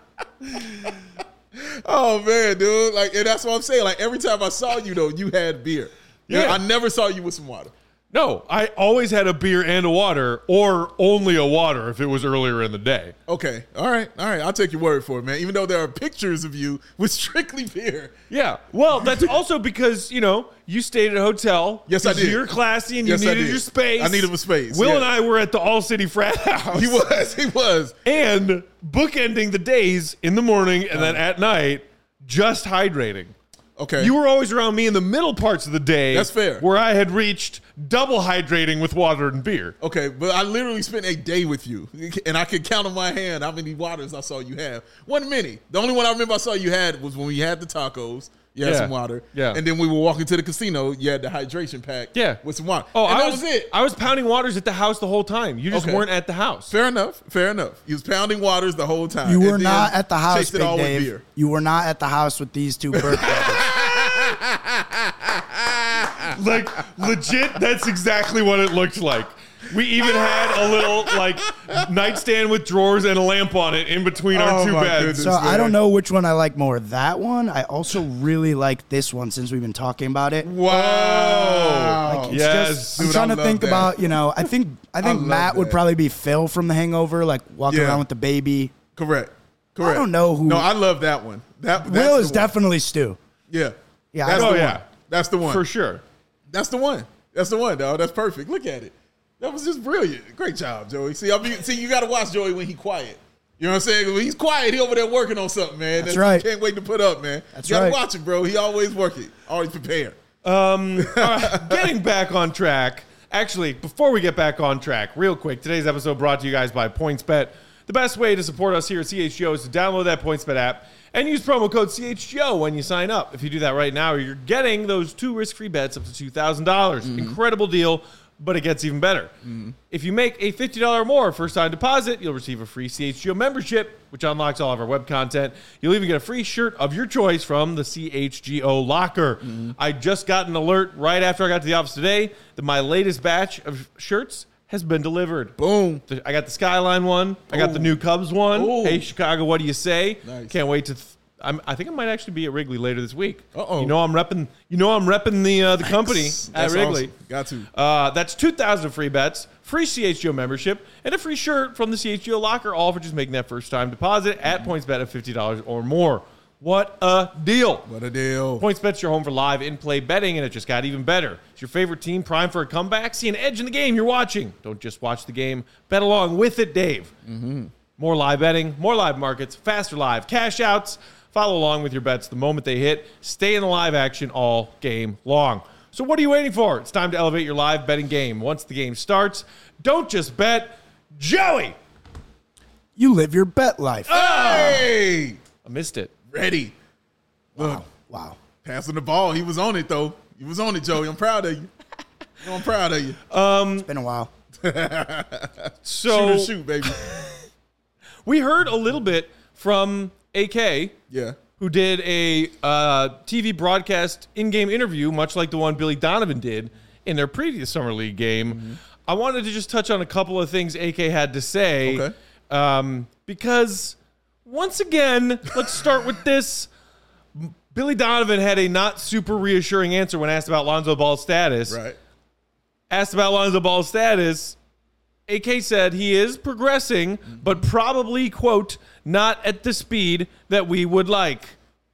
B: Oh, man, dude. Like, and that's what I'm saying. Like, every time I saw you, though, you had beer.
A: Yeah.
B: I never saw you with some water.
A: No, I always had a beer and a water, or only a water if it was earlier in the day.
B: Okay. All right. I'll take your word for it, man. Even though there are pictures of you with strictly beer.
A: Yeah. Well, that's also because, you stayed at a hotel.
B: Yes, I
A: 'cause
B: did.
A: You're classy and
B: Yes, I
A: you needed
B: did.
A: your space.
B: I needed a space,
A: Will
B: yeah.
A: and I were at the All City Frat House.
B: He was.
A: And bookending the days in the morning and then at night, just hydrating.
B: Okay.
A: You were always around me in the middle parts of the day.
B: That's fair.
A: Where I had reached double hydrating with water and beer.
B: Okay, but I literally spent a day with you, and I could count on my hand how many waters I saw you have. Wasn't many. The only one I remember I saw you had was when we had the tacos. You had
A: Yeah.
B: some water.
A: Yeah.
B: And then we were walking to the casino. You had the hydration pack.
A: Yeah.
B: With some water.
A: Oh,
B: and
A: that
B: that was it.
A: I was pounding waters at the house the whole time. You just
B: Okay.
A: weren't at the house.
B: Fair enough. You was pounding waters the whole time.
C: You
B: and
C: were
B: then
C: not at the house,
B: chased it
C: Big
B: all with
C: Dave.
B: beer.
C: You were not at the house with these 2 birthdays.
A: Like, legit, that's exactly what it looked like. We even had a little, nightstand with drawers and a lamp on it in between our
B: Oh,
A: 2
B: my
A: beds.
B: goodness.
C: So I
B: man.
C: don't know which one I like more. That one, I also really like this one since we've been talking about it.
B: Wow.
C: It's
A: Yes.
C: just, I'm
B: Dude,
C: trying
B: I
C: to
B: love
C: think
B: that.
C: about, I think
B: love
C: Matt would
B: that.
C: probably be Phil from The Hangover, like walking
B: Yeah.
C: around with the baby.
B: Correct.
C: I don't know who.
B: No, I love that one. That's
C: Will
B: the
C: is
B: one.
C: definitely Stu.
B: Yeah.
C: Yeah,
B: That's
C: I
B: the
C: don't-
B: one. That's the one.
A: For sure.
B: That's the one. That's the one, dog. That's perfect. Look at it. That was just brilliant. Great job, Joey. See, you got to watch Joey when he quiet. You know what I'm saying? When he's quiet, he over there working on something, man.
C: That's right.
B: Can't wait to put up, man.
C: That's
B: you gotta
C: right.
B: watch it, bro. He always working. Always prepared.
A: Getting back on track. Actually, before we get back on track, real quick, today's episode brought to you guys by PointsBet. The best way to support us here at CHGO is to download that PointsBet app and use promo code CHGO when you sign up. If you do that right now, you're getting those 2 risk-free bets up to $2,000. Incredible deal, but it gets even better. If you make a $50 or more first-time deposit, you'll receive a free CHGO membership, which unlocks all of our web content. You'll even get a free shirt of your choice from the CHGO locker. I just got an alert right after I got to the office today that my latest batch of shirts has been delivered.
B: Boom.
A: I got the Skyline one. I got the new Cubs one.
B: Ooh.
A: Hey, Chicago, what do you say?
B: Nice.
A: Can't wait to. I think I might actually be at Wrigley later this week.
B: Uh-oh.
A: You know I'm repping. The company at
B: That's
A: Wrigley.
B: awesome. Got to.
A: That's 2,000 free bets, free CHGO membership, and a free shirt from the CHGO locker, all for just making that first-time deposit at PointsBet of $50 or more. What a deal!
B: What a deal.
A: PointsBet's your home for live in-play betting, and it just got even better. Is your favorite team primed for a comeback? See an edge in the game you're watching. Don't just watch the game. Bet along with it, Dave. More live betting, more live markets, faster live cash outs. Follow along with your bets the moment they hit. Stay in the live action all game long. So what are you waiting for? It's time to elevate your live betting game. Once the game starts, don't just bet. Joey!
C: You live your bet life.
B: Hey!
A: I missed it.
B: Ready.
C: Wow.
B: Passing the ball. He was on it, though. He was on it, Joey. I'm proud of you. I'm proud of you.
C: It's been a while.
A: So
B: Shoot, baby.
A: we heard a little bit from AK,
B: Yeah.
A: who did a TV broadcast in-game interview, much like the one Billy Donovan did in their previous Summer League game.
B: Mm-hmm.
A: I wanted to just touch on a couple of things AK had to say.
B: Okay.
A: Because, once again, let's start with this. Billy Donovan had a not super reassuring answer when asked about Lonzo Ball's status.
B: Right.
A: Asked about Lonzo Ball's status, AK said he is progressing, but probably, quote, not at the speed that we would like.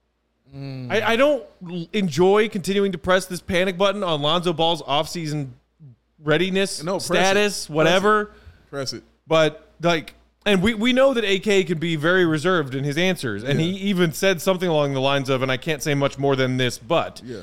A: I don't enjoy continuing to press this panic button on Lonzo Ball's offseason readiness,
B: No, press
A: status,
B: it.
A: whatever.
B: Press it.
A: But, like, and we know that AK can be very reserved in his answers. And he even said something along the lines of, and I can't say much more than this, but
B: Yeah.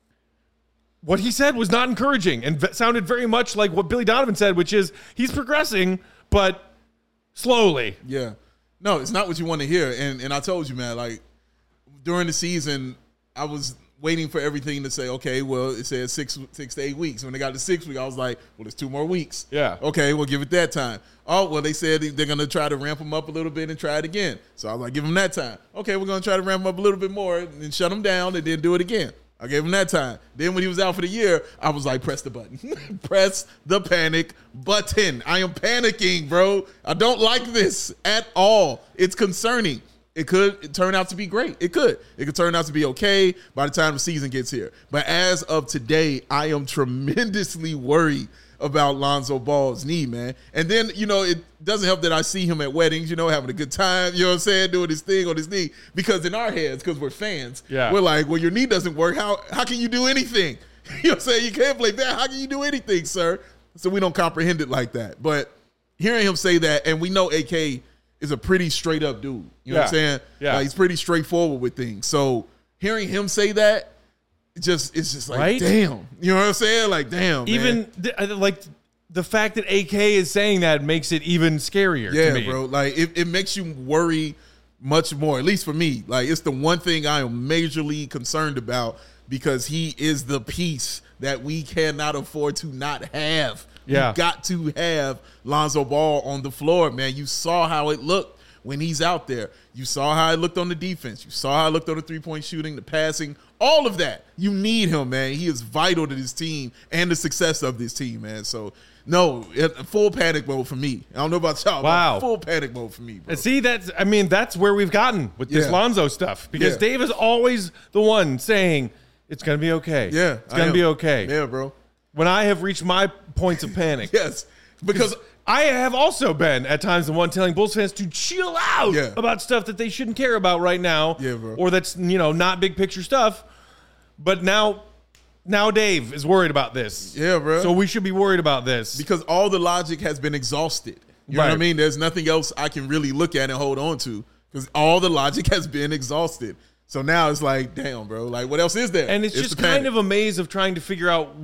A: what he said was not encouraging and sounded very much like what Billy Donovan said, which is he's progressing, but slowly.
B: Yeah. No, it's not what you want to hear. And I told you, man, like during the season, I was waiting for everything to say, okay, well, it says 6 to 8 weeks. When they got to 6 weeks, I was like, well, there's 2 more weeks.
A: Yeah.
B: Okay, we'll give it that time. Oh, well, they said they're going to try to ramp them up a little bit and try it again. So I was like, give them that time. Okay, we're going to try to ramp them up a little bit more and then shut them down and then do it again. I gave him that time. Then when he was out for the year, I was like, press the button. Press the panic button. I am panicking, bro. I don't like this at all. It's concerning. It could turn out to be great. It could. It could turn out to be okay by the time the season gets here. But as of today, I am tremendously worried about Lonzo Ball's knee, man. And then, you know, it doesn't help that I see him at weddings, you know, having a good time, you know what I'm saying, doing his thing on his knee. Because in our heads, because we're fans, we're like, well, your knee doesn't work. How can you do anything? You know what I'm saying? You can't play that. How can you do anything, sir? So we don't comprehend it like that. But hearing him say that, and we know AK is a pretty straight up dude. You know what I'm saying?
A: Yeah.
B: Like, he's pretty straightforward with things. So hearing him say that, it's just like,
A: right?
B: Damn. You know what I'm saying? Like, damn,
A: Even like the fact that AK is saying that makes it even scarier to me.
B: Yeah, bro. Like, it makes you worry much more, at least for me. Like, it's the one thing I am majorly concerned about because he is the piece that we cannot afford to not have.
A: Yeah.
B: You got to have Lonzo Ball on the floor, man. You saw how it looked when he's out there. You saw how it looked on the defense. You saw how it looked on the three-point shooting, the passing, all of that. You need him, man. He is vital to this team and the success of this team, man. So, no, full panic mode for me. I don't know about y'all,
A: Wow.
B: but full panic mode for me, bro.
A: And see, that's where we've gotten with this
B: Yeah.
A: Lonzo stuff because
B: Yeah.
A: Dave is always the one saying it's going to be okay.
B: Yeah.
A: It's going to be okay.
B: Yeah, bro.
A: When I have reached my points of panic.
B: Yes, because
A: I have also been at times the one telling Bulls fans to chill out
B: Yeah.
A: about stuff that they shouldn't care about right now.
B: Yeah, bro.
A: Or that's, not big picture stuff. But now Dave is worried about this.
B: Yeah, bro.
A: So we should be worried about this.
B: because all the logic has been exhausted. You know what I
A: Right.
B: mean? There's nothing else I can really look at and hold on to because all the logic has been exhausted. So now it's like, damn, bro. Like, what else is there?
A: And it's just
B: the
A: kind
B: panic.
A: of a maze of trying to figure out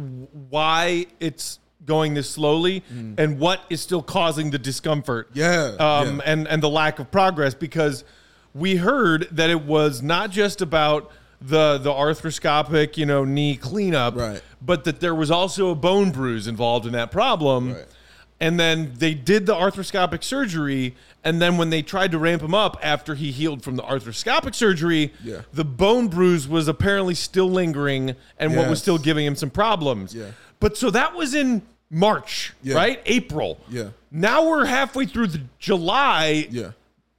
A: why it's going this slowly and what is still causing the discomfort.
B: Yeah,
A: And the lack of progress, because we heard that it was not just about the arthroscopic, knee cleanup,
B: Right.
A: but that there was also a bone bruise involved in that problem.
B: Right.
A: And then they did the arthroscopic surgery, and then when they tried to ramp him up after he healed from the arthroscopic surgery,
B: Yeah.
A: the bone bruise was apparently still lingering and what was
B: Yes.
A: still giving him some problems.
B: Yeah.
A: But so that was in March,
B: Yeah.
A: right? April.
B: Yeah.
A: Now we're halfway through the July,
B: Yeah.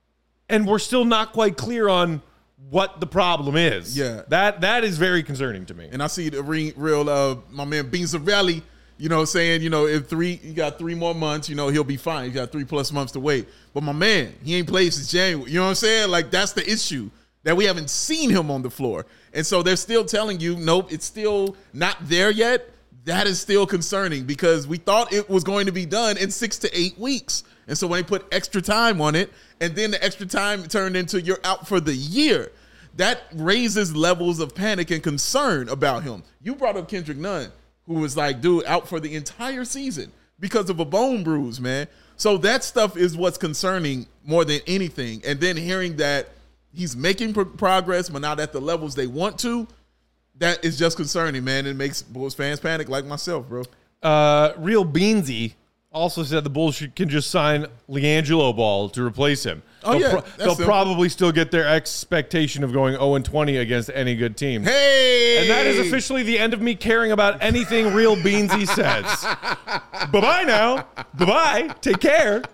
A: and we're still not quite clear on what the problem is.
B: Yeah.
A: That is very concerning to me.
B: And I see the real my man Bean Zavelli, saying, if you got 3 more months, he'll be fine. You got 3+ months to wait. But my man, he ain't played since January. You know what I'm saying? Like, that's the issue, that we haven't seen him on the floor. And so they're still telling you, nope, it's still not there yet. That is still concerning because we thought it was going to be done in 6 to 8 weeks. And so when they put extra time on it, and then the extra time turned into you're out for the year, that raises levels of panic and concern about him. You brought up Kendrick Nunn, who was like, dude, out for the entire season because of a bone bruise, man. So that stuff is what's concerning more than anything. And then hearing that he's making progress, but not at the levels they want to, that is just concerning, man. It makes Bulls fans panic like myself, bro.
A: Real Beansy also said the Bulls can just sign LiAngelo Ball to replace him.
B: Oh,
A: they'll probably still get their expectation of going 0-20 against any good team.
B: Hey!
A: And that is officially the end of me caring about anything Real Beansy says. Bye-bye now. Bye-bye. Take care.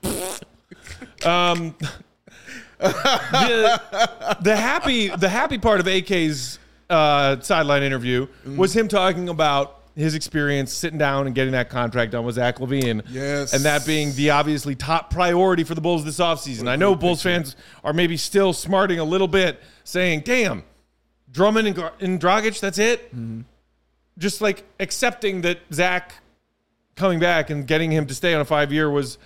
A: The happy part of AK's sideline interview was him talking about his experience sitting down and getting that contract done with Zach LaVine.
B: Yes.
A: And that being the obviously top priority for the Bulls this offseason. I know Bulls fans are maybe still smarting a little bit, saying, damn, Drummond and Dragic, that's it? Mm-hmm. Just like accepting that Zach coming back and getting him to stay on a 5-year was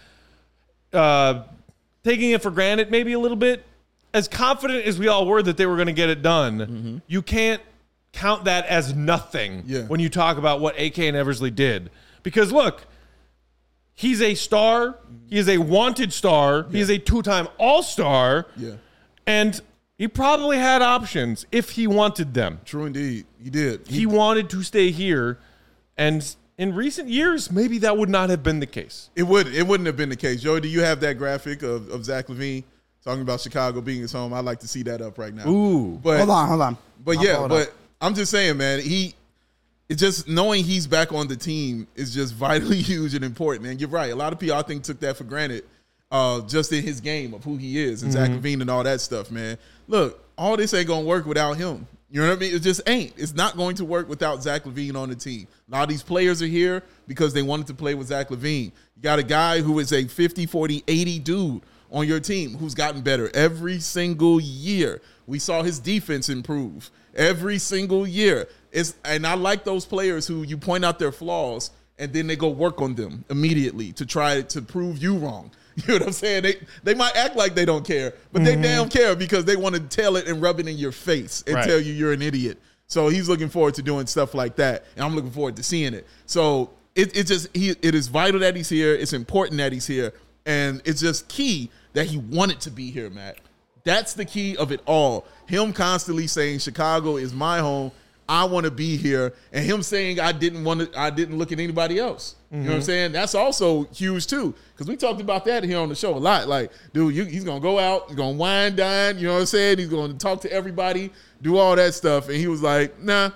A: taking it for granted maybe a little bit. As confident as we all were that they were going to get it done, you can't count that as nothing when you talk about what AK and Eversley did. Because look, he's a star. He is a wanted star. He is a 2-time All-Star.
B: Yeah.
A: And he probably had options if he wanted them.
B: True indeed. He did.
A: He wanted to stay here. And in recent years, maybe that would not have been the case.
B: It wouldn't have been the case. Joey, do you have that graphic of Zach LaVine talking about Chicago being his home? I'd like to see that up right now.
A: Ooh.
B: But,
C: Hold on.
B: But I'm just saying, man, it's just knowing he's back on the team is just vitally huge and important, man. You're right. A lot of people, I think, took that for granted just in his game of who he is and Zach LaVine and all that stuff, man. Look, all this ain't going to work without him. You know what I mean? It just ain't. It's not going to work without Zach LaVine on the team. A lot of these players are here because they wanted to play with Zach LaVine. You got a guy who is a 50, 40, 80 dude on your team who's gotten better every single year. We saw his defense improve every single year. And I like those players who you point out their flaws and then they go work on them immediately to try to prove you wrong. You know what I'm saying? They might act like they don't care, but they damn care because they want to tell it and rub it in your face and tell you you're an idiot. So he's looking forward to doing stuff like that, and I'm looking forward to seeing it. So it is vital that he's here. It's important that he's here, and it's just key that he wanted to be here, Matt. That's the key of it all. Him constantly saying Chicago is my home. I want to be here, and him saying I didn't look at anybody else. You know what I'm saying? That's also huge too, because we talked about that here on the show a lot. Like, dude, he's gonna go out, he's gonna wine, dine. You know what I'm saying? He's gonna talk to everybody, do all that stuff, and he was like, nah,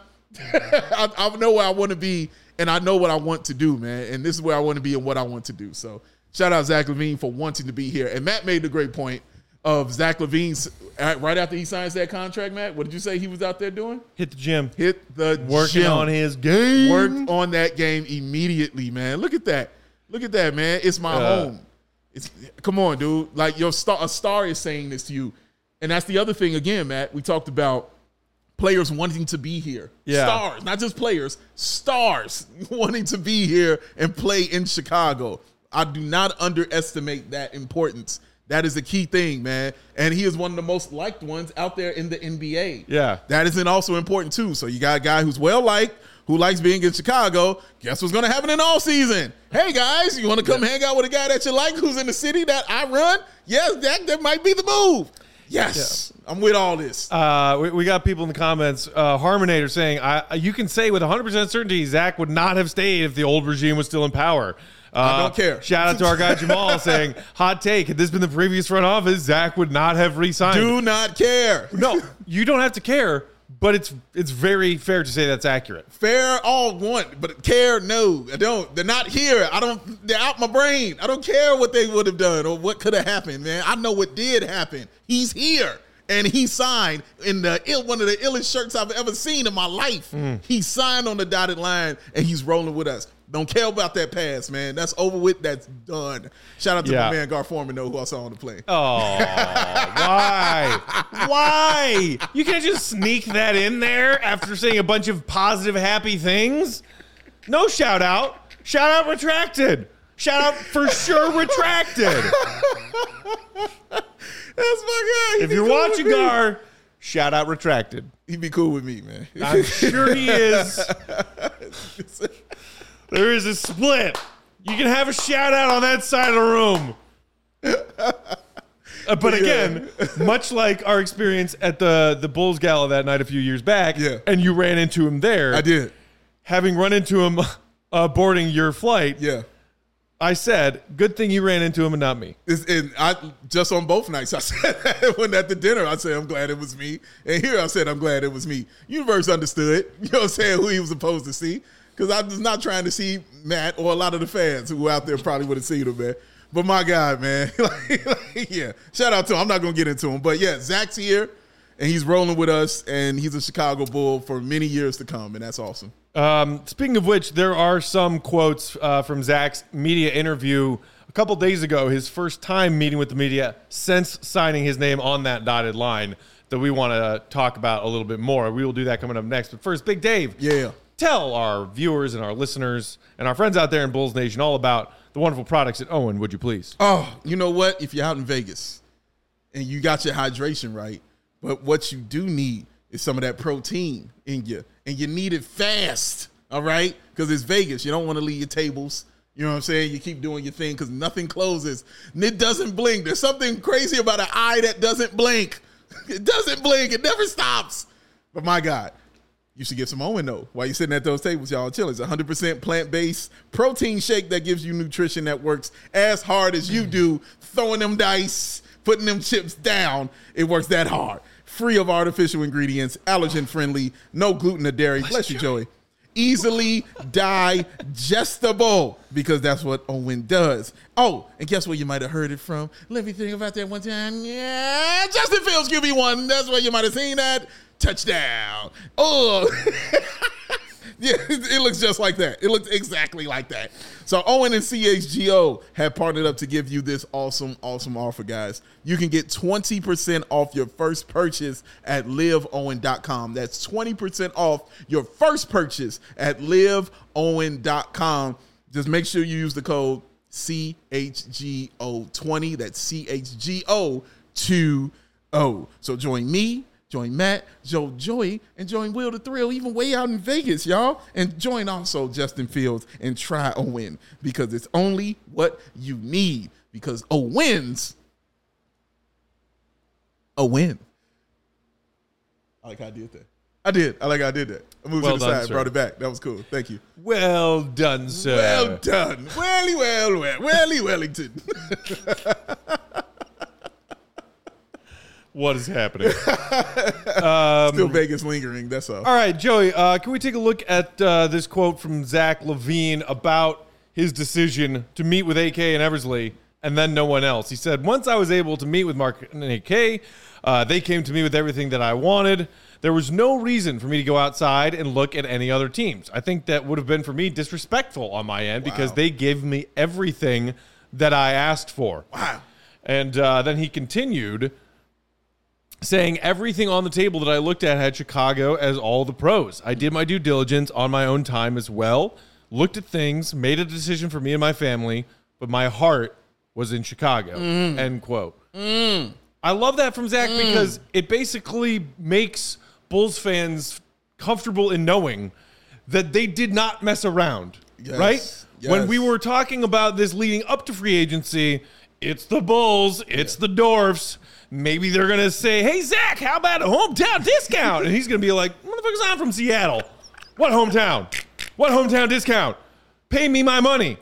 B: I know where I want to be, and I know what I want to do, man. And this is where I want to be and what I want to do. So, shout out Zach LaVine for wanting to be here. And Matt made the great point of Zach LaVine's right after he signs that contract, Matt. What did you say he was out there doing?
A: Hit the gym.
B: Working
A: on his game.
B: Worked on that game immediately, man. Look at that. Look at that, man. It's my home. Come on, dude. Like a star is saying this to you. And that's the other thing, again, Matt. We talked about players wanting to be here.
A: Yeah.
B: Stars, not just players. Stars wanting to be here and play in Chicago. I do not underestimate that importance. That is the key thing, man. And he is one of the most liked ones out there in the NBA.
A: Yeah.
B: That is also important, too. So you got a guy who's well-liked, who likes being in Chicago. Guess what's going to happen in all season? Hey, guys, you want to come hang out with a guy that you like who's in the city that I run? Yes, that might be the move. Yes. Yeah. I'm with all this.
A: We got people in the comments. Harmonator saying, you can say with 100% certainty Zach would not have stayed if the old regime was still in power.
B: I don't care.
A: Shout out to our guy Jamal saying, hot take, had this been the previous front office, Zach would not have re-signed.
B: Do not care.
A: No, you don't have to care, but it's very fair to say that's accurate.
B: Fair all want, but care, no. I don't. They're not here. They're out my brain. I don't care what they would have done or what could have happened, man. I know what did happen. He's here. And he signed in one of the illest shirts I've ever seen in my life. He signed on the dotted line, and he's rolling with us. Don't care about that pass, man. That's over with. That's done. Shout out to my man Gar Foreman, though, who I saw on the plane.
A: Oh, why? Why? You can't just sneak that in there after saying a bunch of positive, happy things. No shout out. Shout out retracted. Shout out for sure retracted.
B: That's my guy.
A: If you're watching Gar, shout out retracted.
B: He'd be cool with me, man.
A: I'm sure he is. There is a split. You can have a shout out on that side of the room. But again, much like our experience at the Bulls Gala that night a few years back, and you ran into him there.
B: I did.
A: Having run into him boarding your flight, I said, good thing you ran into him and not me.
B: And I just on both nights, I said, when at the dinner, I said, I'm glad it was me. And here I said, I'm glad it was me. Universe understood, you know what I'm saying, who he was supposed to see. Because I was not trying to see Matt or a lot of the fans who were out there probably would have seen him, man. But my God, man. Shout out to him. I'm not going to get into him. But yeah, Zach's here, and he's rolling with us, and he's a Chicago Bull for many years to come, and that's awesome.
A: Speaking of which, there are some quotes from Zach's media interview a couple days ago, his first time meeting with the media since signing his name on that dotted line, that we want to talk about a little bit more. We will do that coming up next. But first, Big Dave.
B: Yeah.
A: Tell our viewers and our listeners and our friends out there in Bulls Nation all about the wonderful products at Owen, would you please?
B: Oh, you know what? If you're out in Vegas and you got your hydration right, but what you do need is some of that protein in you, and you need it fast, all right? Because it's Vegas. You don't want to leave your tables. You know what I'm saying? You keep doing your thing because nothing closes. And it doesn't blink. There's something crazy about an eye that doesn't blink. It doesn't blink. It never stops. But my God, you should get some Owen, though, while you're sitting at those tables, y'all chilling. It's 100% plant-based protein shake that gives you nutrition that works as hard as you do, throwing them dice, putting them chips down. It works that hard. Free of artificial ingredients, allergen-friendly, no gluten or dairy. Bless you, Joey. Easily digestible, because that's what Owen does. Oh, and guess where you might have heard it from? Let me think about that one time. Yeah, Justin Fields QB1. That's where you might have seen that. Touchdown. Oh, yeah, it looks just like that. It looks exactly like that. So Owen and CHGO have partnered up to give you this awesome, awesome offer, guys. You can get 20% off your first purchase at liveowen.com. That's 20% off your first purchase at liveowen.com. Just make sure you use the code CHGO20. That's CHGO20. So join me, join Matt, Joey, and join Will the Thrill, even way out in Vegas, y'all. And join also Justin Fields and try Owen, because it's only what you need. Because Owens a win. I like how I did that. I like how I did that. I moved to the side, brought it back. That was cool. Thank you.
A: Well done, sir.
B: Well done. Welly Wellington.
A: What is happening?
B: Still Vegas lingering, that's all.
A: All right, Joey, can we take a look at this quote from Zach LaVine about his decision to meet with AK and Eversley and then no one else? He said, once I was able to meet with Mark and AK, they came to me with everything that I wanted. There was no reason for me to go outside and look at any other teams. I think that would have been, for me, disrespectful on my end because they gave me everything that I asked for.
B: Wow.
A: And then he continued saying everything on the table that I looked at had Chicago as all the pros. I did my due diligence on my own time as well, looked at things, made a decision for me and my family, but my heart was in Chicago, end quote. I love that from Zach because it basically makes Bulls fans comfortable in knowing that they did not mess around, right? Yes. When we were talking about this leading up to free agency, it's the Bulls, it's the Dwarfs. Maybe they're going to say, hey, Zach, how about a hometown discount? And he's going to be like, motherfuckers, I'm from Seattle. What hometown? What hometown discount? Pay me my money.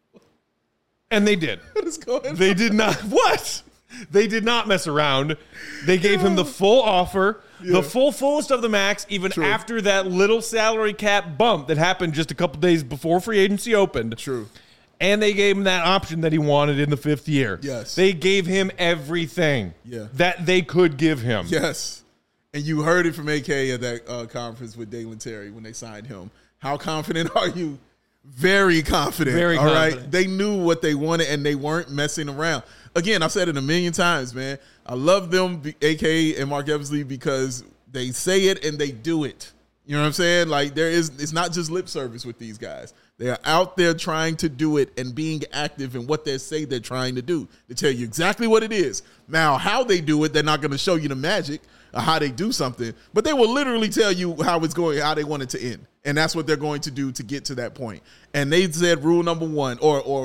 A: And they did.
B: What is going on?
A: They did not. What? They did not mess around. They gave him the full offer, the fullest of the max, even after that little salary cap bump that happened just a couple days before free agency opened.
B: True.
A: And they gave him that option that he wanted in the 5th year.
B: Yes.
A: They gave him everything that they could give him.
B: Yes. And you heard it from AK at that conference with Dalen Terry when they signed him. How confident are you? Very confident.
A: Very confident. All right.
B: They knew what they wanted and they weren't messing around. Again, I've said it a million times, man. I love them, AK and Mark Eversley, because they say it and they do it. You know what I'm saying? Like, it's not just lip service with these guys. They are out there trying to do it and being active in what they say they're trying to do. They tell you exactly what it is. Now, how they do it, they're not going to show you the magic of how they do something, but they will literally tell you how it's going, how they want it to end. And that's what they're going to do to get to that point. And they said rule number one, or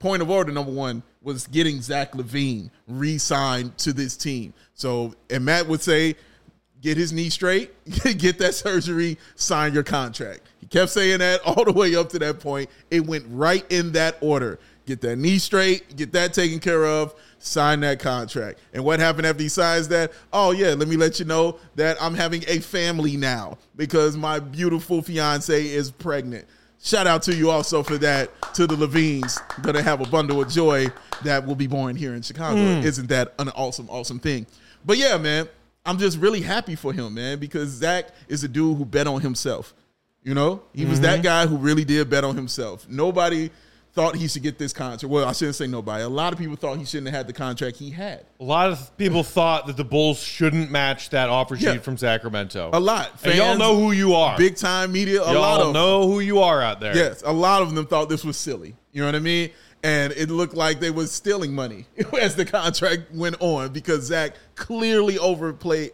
B: point of order, number one, was getting Zach LaVine re-signed to this team. So, and Matt would say, get his knee straight, get that surgery, sign your contract. He kept saying that all the way up to that point. It went right in that order. Get that knee straight, get that taken care of, sign that contract. And what happened after he signs that? Oh, yeah, let me let you know that I'm having a family now because my beautiful fiance is pregnant. Shout out to you also for that, to the LaVines. Going to have a bundle of joy that will be born here in Chicago. Isn't that an awesome, awesome thing? But, yeah, man, I'm just really happy for him, man, because Zach is a dude who bet on himself. You know? He was that guy who really did bet on himself. Nobody thought he should get this contract. Well, I shouldn't say nobody. A lot of people thought he shouldn't have had the contract he had.
A: A lot of people thought that the Bulls shouldn't match that offer sheet from Sacramento.
B: A lot.
A: Fans, and y'all know who you are.
B: Big time media. A
A: y'all
B: lot of
A: know who you are out there.
B: Yes, a lot of them thought this was silly. You know what I mean? And it looked like they was stealing money as the contract went on because Zach clearly overplayed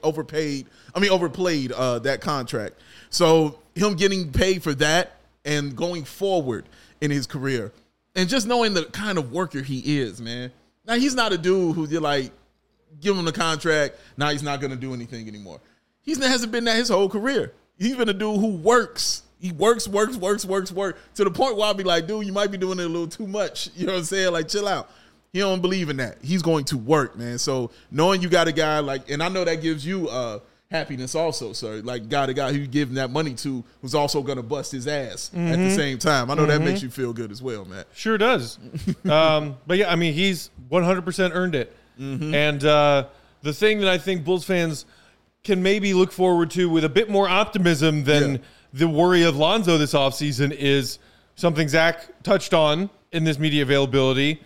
B: that contract. So him getting paid for that and going forward in his career and just knowing the kind of worker he is, man. Now, he's not a dude who you're like, give him the contract, now he's not going to do anything anymore. He hasn't been that his whole career. He's been a dude who works. He works to the point where I'll be like, dude, you might be doing it a little too much. You know what I'm saying? Like, chill out. He don't believe in that. He's going to work, man. So knowing you got a guy like, and I know that gives you happiness also, sir. Like, got a guy who you give that money to who's also going to bust his ass at the same time. I know that makes you feel good as well, man.
A: Sure does. But yeah, I mean, he's 100% earned it. And the thing that I think Bulls fans can maybe look forward to with a bit more optimism than the worry of Lonzo this offseason is something Zach touched on in this media availability.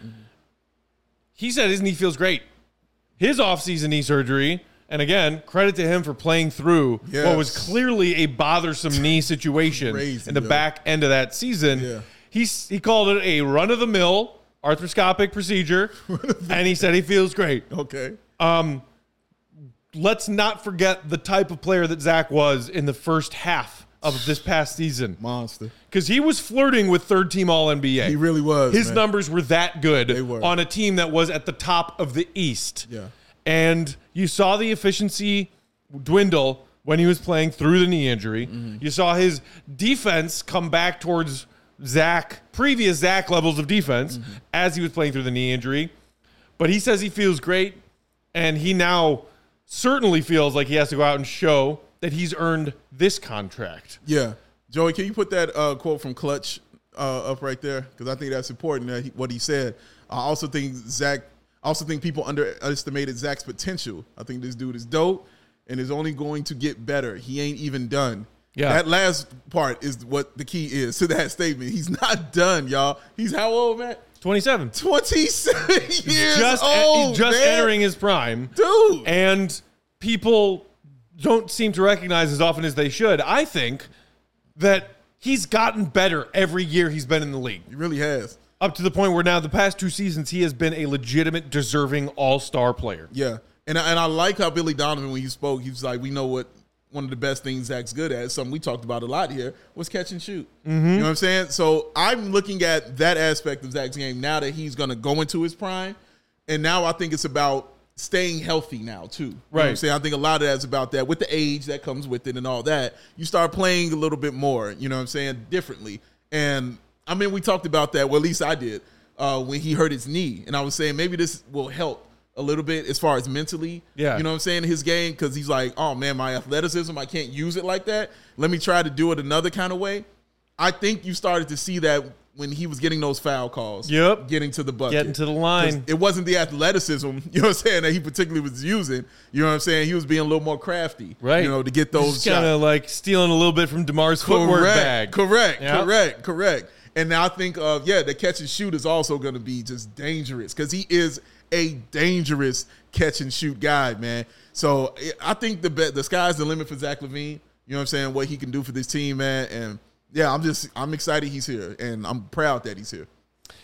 A: He said his knee feels great. His offseason knee surgery, and again, credit to him for playing through what was clearly a bothersome knee situation in the back end of that season. He called it a run-of-the-mill arthroscopic procedure, and he said he feels great.
B: Okay.
A: Let's not forget the type of player that Zach was in the first half of this past season.
B: Monster.
A: Because he was flirting with third-team All-NBA.
B: He really was,
A: His numbers were that good on a team that was at the top of the East.
B: Yeah.
A: And you saw the efficiency dwindle when he was playing through the knee injury. You saw his defense come back towards previous Zach levels of defense as he was playing through the knee injury. But he says he feels great, and he now certainly feels like he has to go out and show that he's earned this contract.
B: Yeah. Joey, can you put that quote from Clutch up right there? Because I think that's important, what he said. I also think people underestimated Zach's potential. I think this dude is dope and is only going to get better. He ain't even done. Yeah. That last part is what the key is to that statement. He's not done, y'all. He's how old, man?
A: 27.
B: 27 years old,
A: He's just entering his prime.
B: Dude.
A: And people don't seem to recognize as often as they should. I think that he's gotten better every year he's been in the league.
B: He really has.
A: Up to the point where now the past 2 seasons, he has been a legitimate, deserving all-star player.
B: Yeah. And I like how Billy Donovan, when he spoke, he was like, we know what one of the best things Zach's good at, something we talked about a lot here, was catch and shoot. You know what I'm saying? So I'm looking at that aspect of Zach's game now that he's going to go into his prime. And now I think it's about staying healthy now, too. You know what I'm saying? I think a lot of that's about that. With the age that comes with it and all that, you start playing a little bit more, you know what I'm saying, differently. And, I mean, we talked about that, well, at least I did, when he hurt his knee. And I was saying maybe this will help a little bit as far as mentally, you know what I'm saying, his game, because he's like, oh, man, my athleticism, I can't use it like that. Let me try to do it another kind of way. I think you started to see that when he was getting those foul calls, getting to the bucket.
A: Getting to the line.
B: It wasn't the athleticism, you know what I'm saying, that he particularly was using. You know what I'm saying? He was being a little more crafty, you know, to get those shots.
A: Kind of like stealing a little bit from DeMar's footwork bag.
B: Correct. And now I think, the catch and shoot is also going to be just dangerous because he is a dangerous catch and shoot guy, man. So I think the sky's the limit for Zach LaVine. You know what I'm saying? What he can do for this team, man. And yeah, I'm excited he's here, and I'm proud that he's here.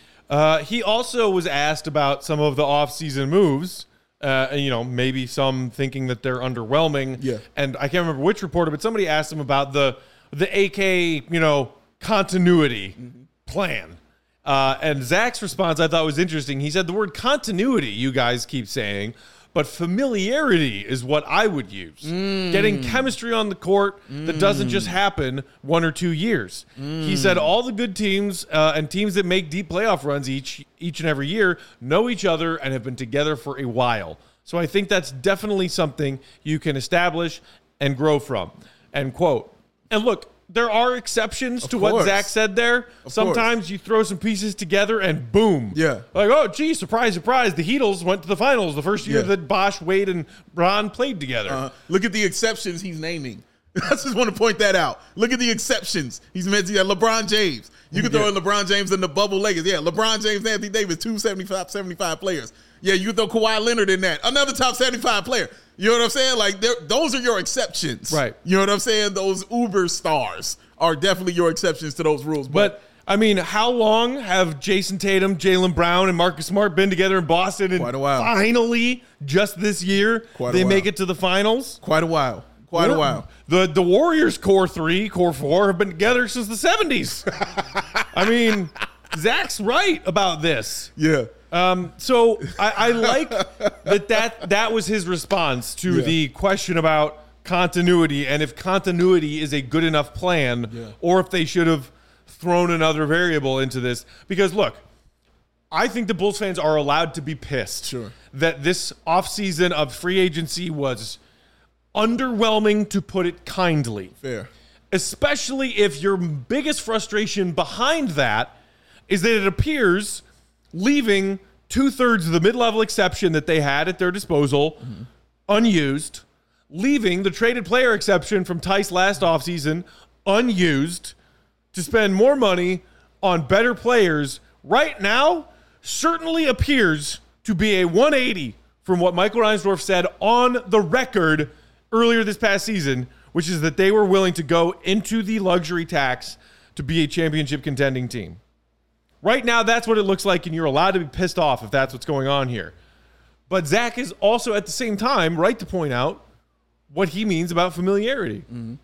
A: He also was asked about some of the offseason moves, maybe some thinking that they're underwhelming.
B: Yeah.
A: And I can't remember which reporter, but somebody asked him about the AK, continuity plan. And Zach's response I thought was interesting. He said the word continuity you guys keep saying, but familiarity is what I would use. Getting chemistry on the court that doesn't just happen 1 or 2 years. He said all the good teams and teams that make deep playoff runs each and every year know each other and have been together for a while. So I think that's definitely something you can establish and grow from. End quote. And look, there are exceptions to what Zach said there. Sometimes you throw some pieces together and boom.
B: Yeah.
A: Like, oh, gee, surprise, surprise. The Heatles went to the finals the first year that Bosh, Wade, and Ron played together.
B: Look at the exceptions he's naming. I just want to point that out. Look at the exceptions. He's mentioned LeBron James. You can throw in LeBron James in the bubble Lakers. Yeah, LeBron James, Anthony Davis, 75 players. Yeah, you can throw Kawhi Leonard in that. Another top 75 player. You know what I'm saying? Like, those are your exceptions.
A: Right.
B: You know what I'm saying? Those uber stars are definitely your exceptions to those rules.
A: But I mean, how long have Jason Tatum, Jaylen Brown, and Marcus Smart been together in Boston? And
B: quite a while.
A: Finally, just this year, they make it to the finals?
B: Quite a while. Quite a while.
A: The Warriors core 3, core 4 have been together since the 70s. I mean, Zach's right about this.
B: Yeah.
A: So I like that was his response to the question about continuity and if continuity is a good enough plan or if they should have thrown another variable into this. Because, look, I think the Bulls fans are allowed to be pissed that this offseason of free agency was underwhelming, to put it kindly.
B: Fair.
A: Especially if your biggest frustration behind that is that it appears leaving 2/3 of the mid-level exception that they had at their disposal unused, leaving the traded player exception from Tice last offseason unused to spend more money on better players right now certainly appears to be a 180 from what Michael Reinsdorf said on the record earlier this past season, which is that they were willing to go into the luxury tax to be a championship contending team. Right now, that's what it looks like, and you're allowed to be pissed off if that's what's going on here. But Zach is also, at the same time, right to point out what he means about familiarity.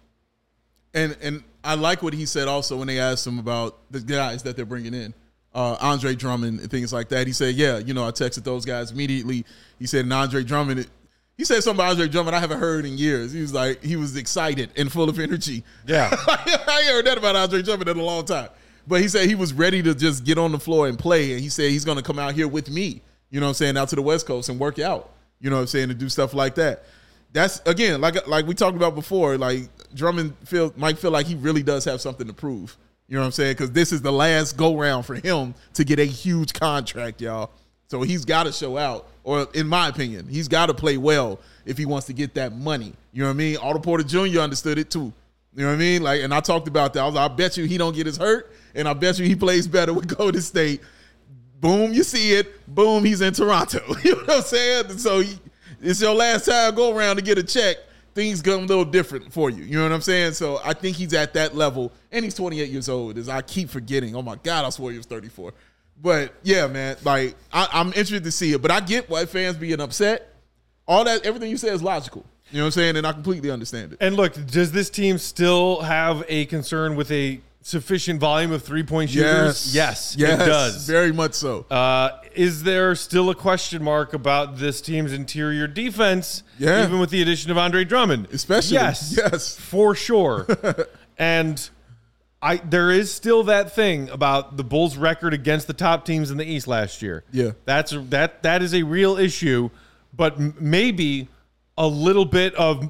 B: And I like what he said also when they asked him about the guys that they're bringing in. Andre Drummond and things like that. He said, I texted those guys immediately. He said, and Andre Drummond, he said something about Andre Drummond I haven't heard in years. He was like, he was excited and full of energy.
A: Yeah.
B: I ain't heard that about Andre Drummond in a long time. But he said he was ready to just get on the floor and play. And he said he's going to come out here with me, you know what I'm saying, out to the West Coast and work out, you know what I'm saying, to do stuff like that. That's, again, like we talked about before, like Drummond might feel like he really does have something to prove. You know what I'm saying? Because this is the last go-round for him to get a huge contract, y'all. So he's got to show out, or in my opinion, he's got to play well if he wants to get that money. You know what I mean? Otto Porter Jr. understood it too. You know what I mean? Like, and I talked about that. I was like, I bet you he don't get his hurt, and I bet you he plays better with Golden State. Boom, you see it. Boom, he's in Toronto. You know what I'm saying? So it's your last time go around to get a check. Things come a little different for you. You know what I'm saying? So I think he's at that level, and he's 28 years old, as I keep forgetting. Oh, my God, I swore he was 34. But, yeah, man, like, I'm interested to see it. But I get why fans being upset. All that, everything you said is logical. You know what I'm saying? And I completely understand it.
A: And look, does this team still have a concern with a sufficient volume of three-point shooters? Yes, it does.
B: Very much so.
A: Is there still a question mark about this team's interior defense, even with the addition of Andre Drummond?
B: Especially. Yes.
A: For sure. And there is still that thing about the Bulls' record against the top teams in the East last year.
B: Yeah.
A: That is a real issue, but maybe a little bit of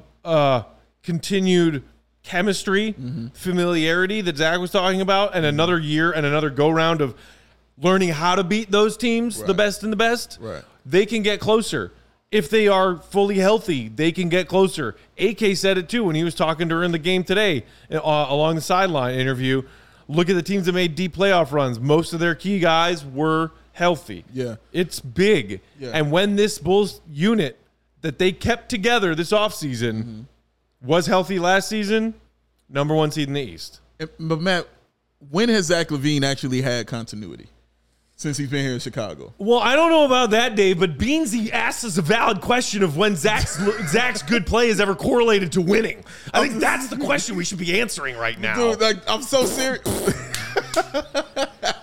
A: continued chemistry, familiarity that Zach was talking about, and another year and another go-round of learning how to beat those teams, the best and the best, they can get closer. If they are fully healthy, they can get closer. AK said it too when he was talking during the game today along the sideline interview. Look at the teams that made deep playoff runs. Most of their key guys were healthy.
B: Yeah.
A: It's big. Yeah. And when this Bulls unit that they kept together this offseason was healthy last season, number one seed in the East.
B: But, Matt, when has Zach LaVine actually had continuity since he's been here in Chicago?
A: Well, I don't know about that, Dave, but Beansy asked us a valid question of when Zach's good play is ever correlated to winning. I think that's the question we should be answering right now.
B: Dude, like, I'm so serious.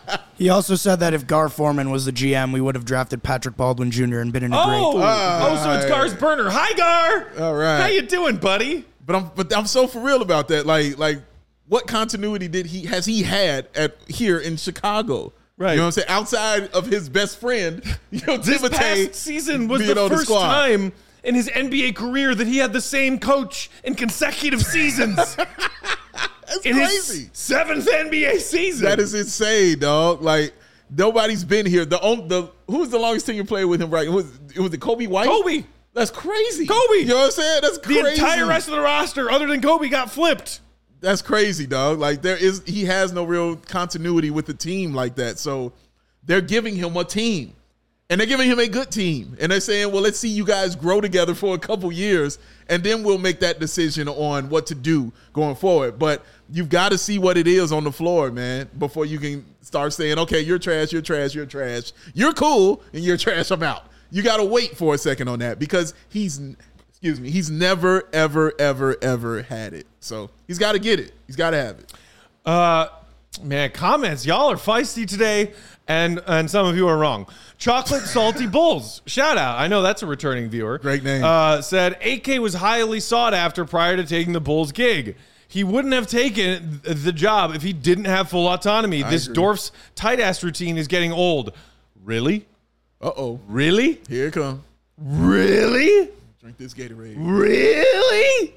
C: He also said that if Gar Forman was the GM, we would have drafted Patrick Baldwin Jr. and been in a great.
A: So it's Gar's burner. Hi, Gar.
B: All right.
A: How you doing, buddy?
B: But I'm so for real about that. Like what continuity has he had here in Chicago?
A: Right.
B: You know what I'm saying? Outside of his best friend,
A: This
B: Timothy
A: past season was
B: being
A: the
B: on
A: first
B: squad.
A: time in his NBA career that he had the same coach in consecutive seasons.
B: That's
A: in
B: crazy.
A: his 7th NBA season.
B: That is insane, dog. Like nobody's been here. Who was the longest tenure player with him? Right? It was the Kobe White.
A: Kobe.
B: That's crazy.
A: Kobe.
B: You know what I'm saying? That's
A: The
B: crazy.
A: entire rest of the roster, other than Kobe, got flipped.
B: That's crazy, dog. Like he has no real continuity with the team like that. So they're giving him a team. And they're giving him a good team. And they're saying, well, let's see you guys grow together for a couple years, and then we'll make that decision on what to do going forward. But you've got to see what it is on the floor, man, before you can start saying, okay, you're trash, you're trash, you're trash. You're cool, and you're trash, I'm out. You got to wait for a second on that because he's never, ever, ever, ever had it. So he's got to get it. He's got to have it.
A: Man, comments. Y'all are feisty today, and some of you are wrong. Chocolate Salty Bulls. Shout out. I know that's a returning viewer.
B: Great name.
A: Said AK was highly sought after prior to taking the Bulls gig. He wouldn't have taken the job if he didn't have full autonomy. This
B: agree.
A: Dorf's tight-ass routine is getting old. Really?
B: Uh-oh.
A: Really?
B: Here it comes.
A: Really?
B: Drink this Gatorade.
A: Really?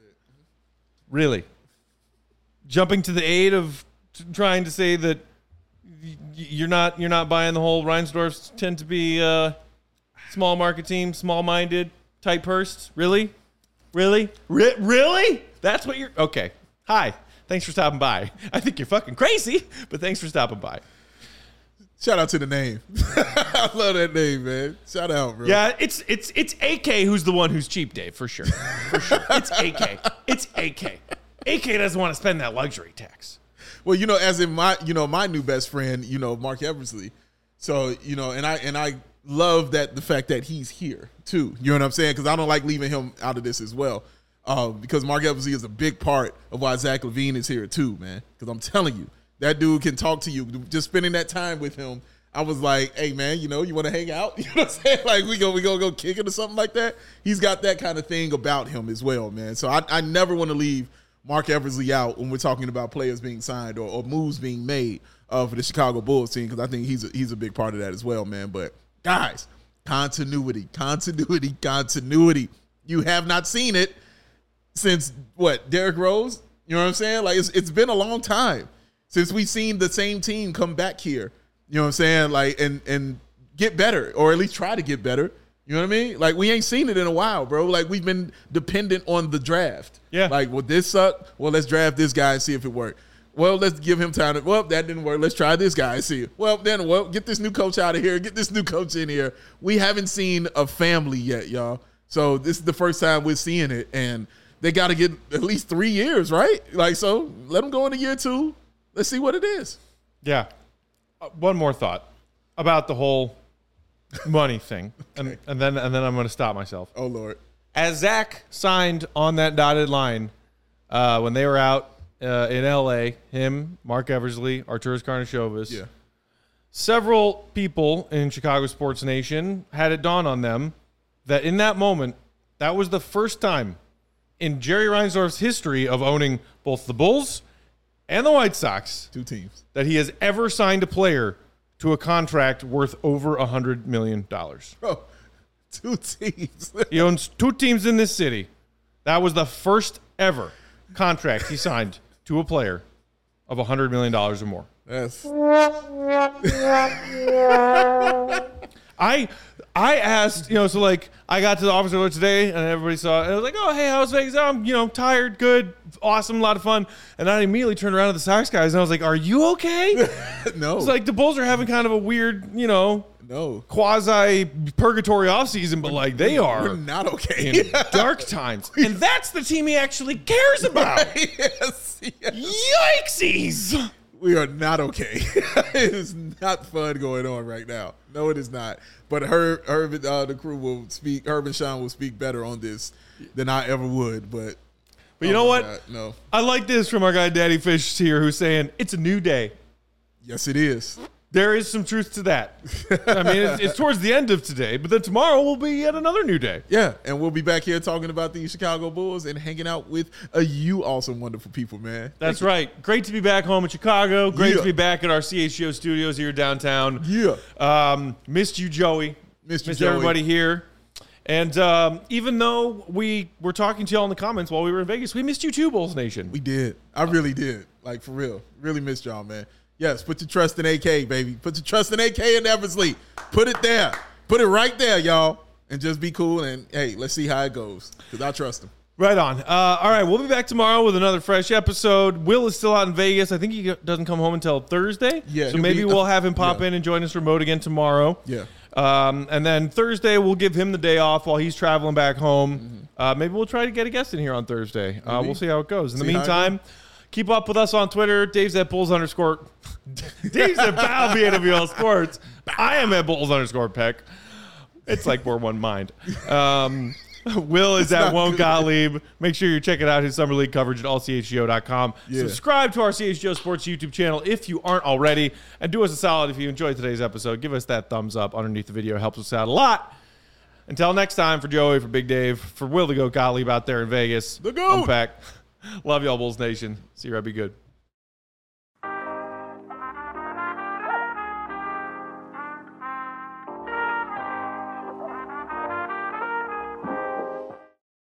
A: Really? Jumping to the aid of trying to say that you're not buying the whole Reinsdorfs tend to be small market team, small-minded, tight-pursed. Really? Really? Really? That's what you're... Okay. Hi. Thanks for stopping by. I think you're fucking crazy, but thanks for stopping by.
B: Shout out to the name. I love that name, man. Shout out, bro.
A: Yeah, it's AK who's the one who's cheap, Dave, for sure. For sure. It's AK. It's AK. AK doesn't want to spend that luxury tax.
B: Well, as in my new best friend, Mark Eversley. So, and I love the fact that he's here too. You know what I'm saying? Because I don't like leaving him out of this as well. Because Mark Eversley is a big part of why Zach LaVine is here too, man. Because I'm telling you, that dude can talk to you. Just spending that time with him, I was like, hey man, you want to hang out? You know what I'm saying? Like we gonna go kick it or something like that. He's got that kind of thing about him as well, man. So I never want to leave Mark Eversley out when we're talking about players being signed or moves being made for the Chicago Bulls team, because I think he's a big part of that as well, man. But guys, continuity. You have not seen it since Derrick Rose? You know what I'm saying? Like it's been a long time since we've seen the same team come back here. You know what I'm saying? Like and get better, or at least try to get better. You know what I mean? Like, we ain't seen it in a while, bro. Like, we've been dependent on the draft.
A: Yeah.
B: Like, well, this sucked. Well, let's draft this guy and see if it worked. Well, let's give him time. Well, that didn't work. Let's try this guy and see. Well, get this new coach out of here. Get this new coach in here. We haven't seen a family yet, y'all. So this is the first time we're seeing it. And they got to get at least 3 years, right? Like, so let them go into year 2. Let's see what it is.
A: Yeah. One more thought about the whole money thing, and then I'm going to stop myself.
B: Oh Lord!
A: As Zach signed on that dotted line when they were out in L.A., him, Mark Eversley, Arturas Karnisovas,
B: Yeah.
A: several people in Chicago sports nation had it dawn on them that in that moment, that was the first time in Jerry Reinsdorf's history of owning both the Bulls and the White Sox,
B: 2 teams,
A: that he has ever signed a player to a contract worth over $100 million.
B: Bro, 2 teams.
A: He owns 2 teams in this city. That was the first ever contract he signed to a player of $100 million or more.
B: That's
A: I asked, so like I got to the office earlier today and everybody saw it. And I was like, oh, hey, how's Vegas? Oh, I'm, tired, good, awesome, a lot of fun. And I immediately turned around to the Sox guys and I was like, are you okay?
B: no.
A: It's like the Bulls are having kind of a weird,
B: no.
A: quasi-purgatory offseason, but like they are
B: We're not okay.
A: in dark times. And that's the team he actually cares about.
B: yes.
A: Yikesies!
B: We are not okay. It is not fun going on right now. No, it is not. But Herb the crew will speak. Herb and Sean will speak better on this than I ever would. But
A: you know what?
B: God, no.
A: I like this from our guy Daddy Fish here, who's saying it's a new day.
B: Yes, it is.
A: There is some truth to that. I mean, it's towards the end of today, but then tomorrow will be yet another new day.
B: Yeah, and we'll be back here talking about the Chicago Bulls and hanging out with you awesome, wonderful people, man.
A: That's right. Great to be back home in Chicago. Great to be back at our CHGO studios here downtown.
B: Yeah.
A: Missed you, Joey.
B: Missed
A: Joey. Everybody here. And even though we were talking to y'all in the comments while we were in Vegas, we missed you too, Bulls Nation.
B: We did. I really did. Like, for real. Really missed y'all, man. Yes, put your trust in AK, baby. Put your trust in AK in Eversley. Put it there. Put it right there, y'all. And just be cool. And, hey, let's see how it goes. Because I trust him.
A: Right on. All right, we'll be back tomorrow with another fresh episode. Will is still out in Vegas. I think he doesn't come home until Thursday.
B: Yeah.
A: So maybe we'll have him pop in and join us remote again tomorrow.
B: Yeah.
A: And then Thursday, we'll give him the day off while he's traveling back home. Maybe we'll try to get a guest in here on Thursday. We'll see how it goes. In the meantime, keep up with us on Twitter. Dave's at Bulls _ Dave's at Pal BAWL Sports. I am at Bulls _ Peck. It's like we're one mind. Will is at Won't Gottlieb. Make sure you're checking out his Summer League coverage at allchgo.com.
B: Yeah.
A: Subscribe to our CHGO Sports YouTube channel if you aren't already. And do us a solid if you enjoyed today's episode. Give us that thumbs up underneath the video. It helps us out a lot. Until next time, for Joey, for Big Dave, for Will the Goat Gottlieb out there in Vegas.
B: The Goat.
A: I'm Peck. Love y'all, Bulls Nation. See you right. Be good.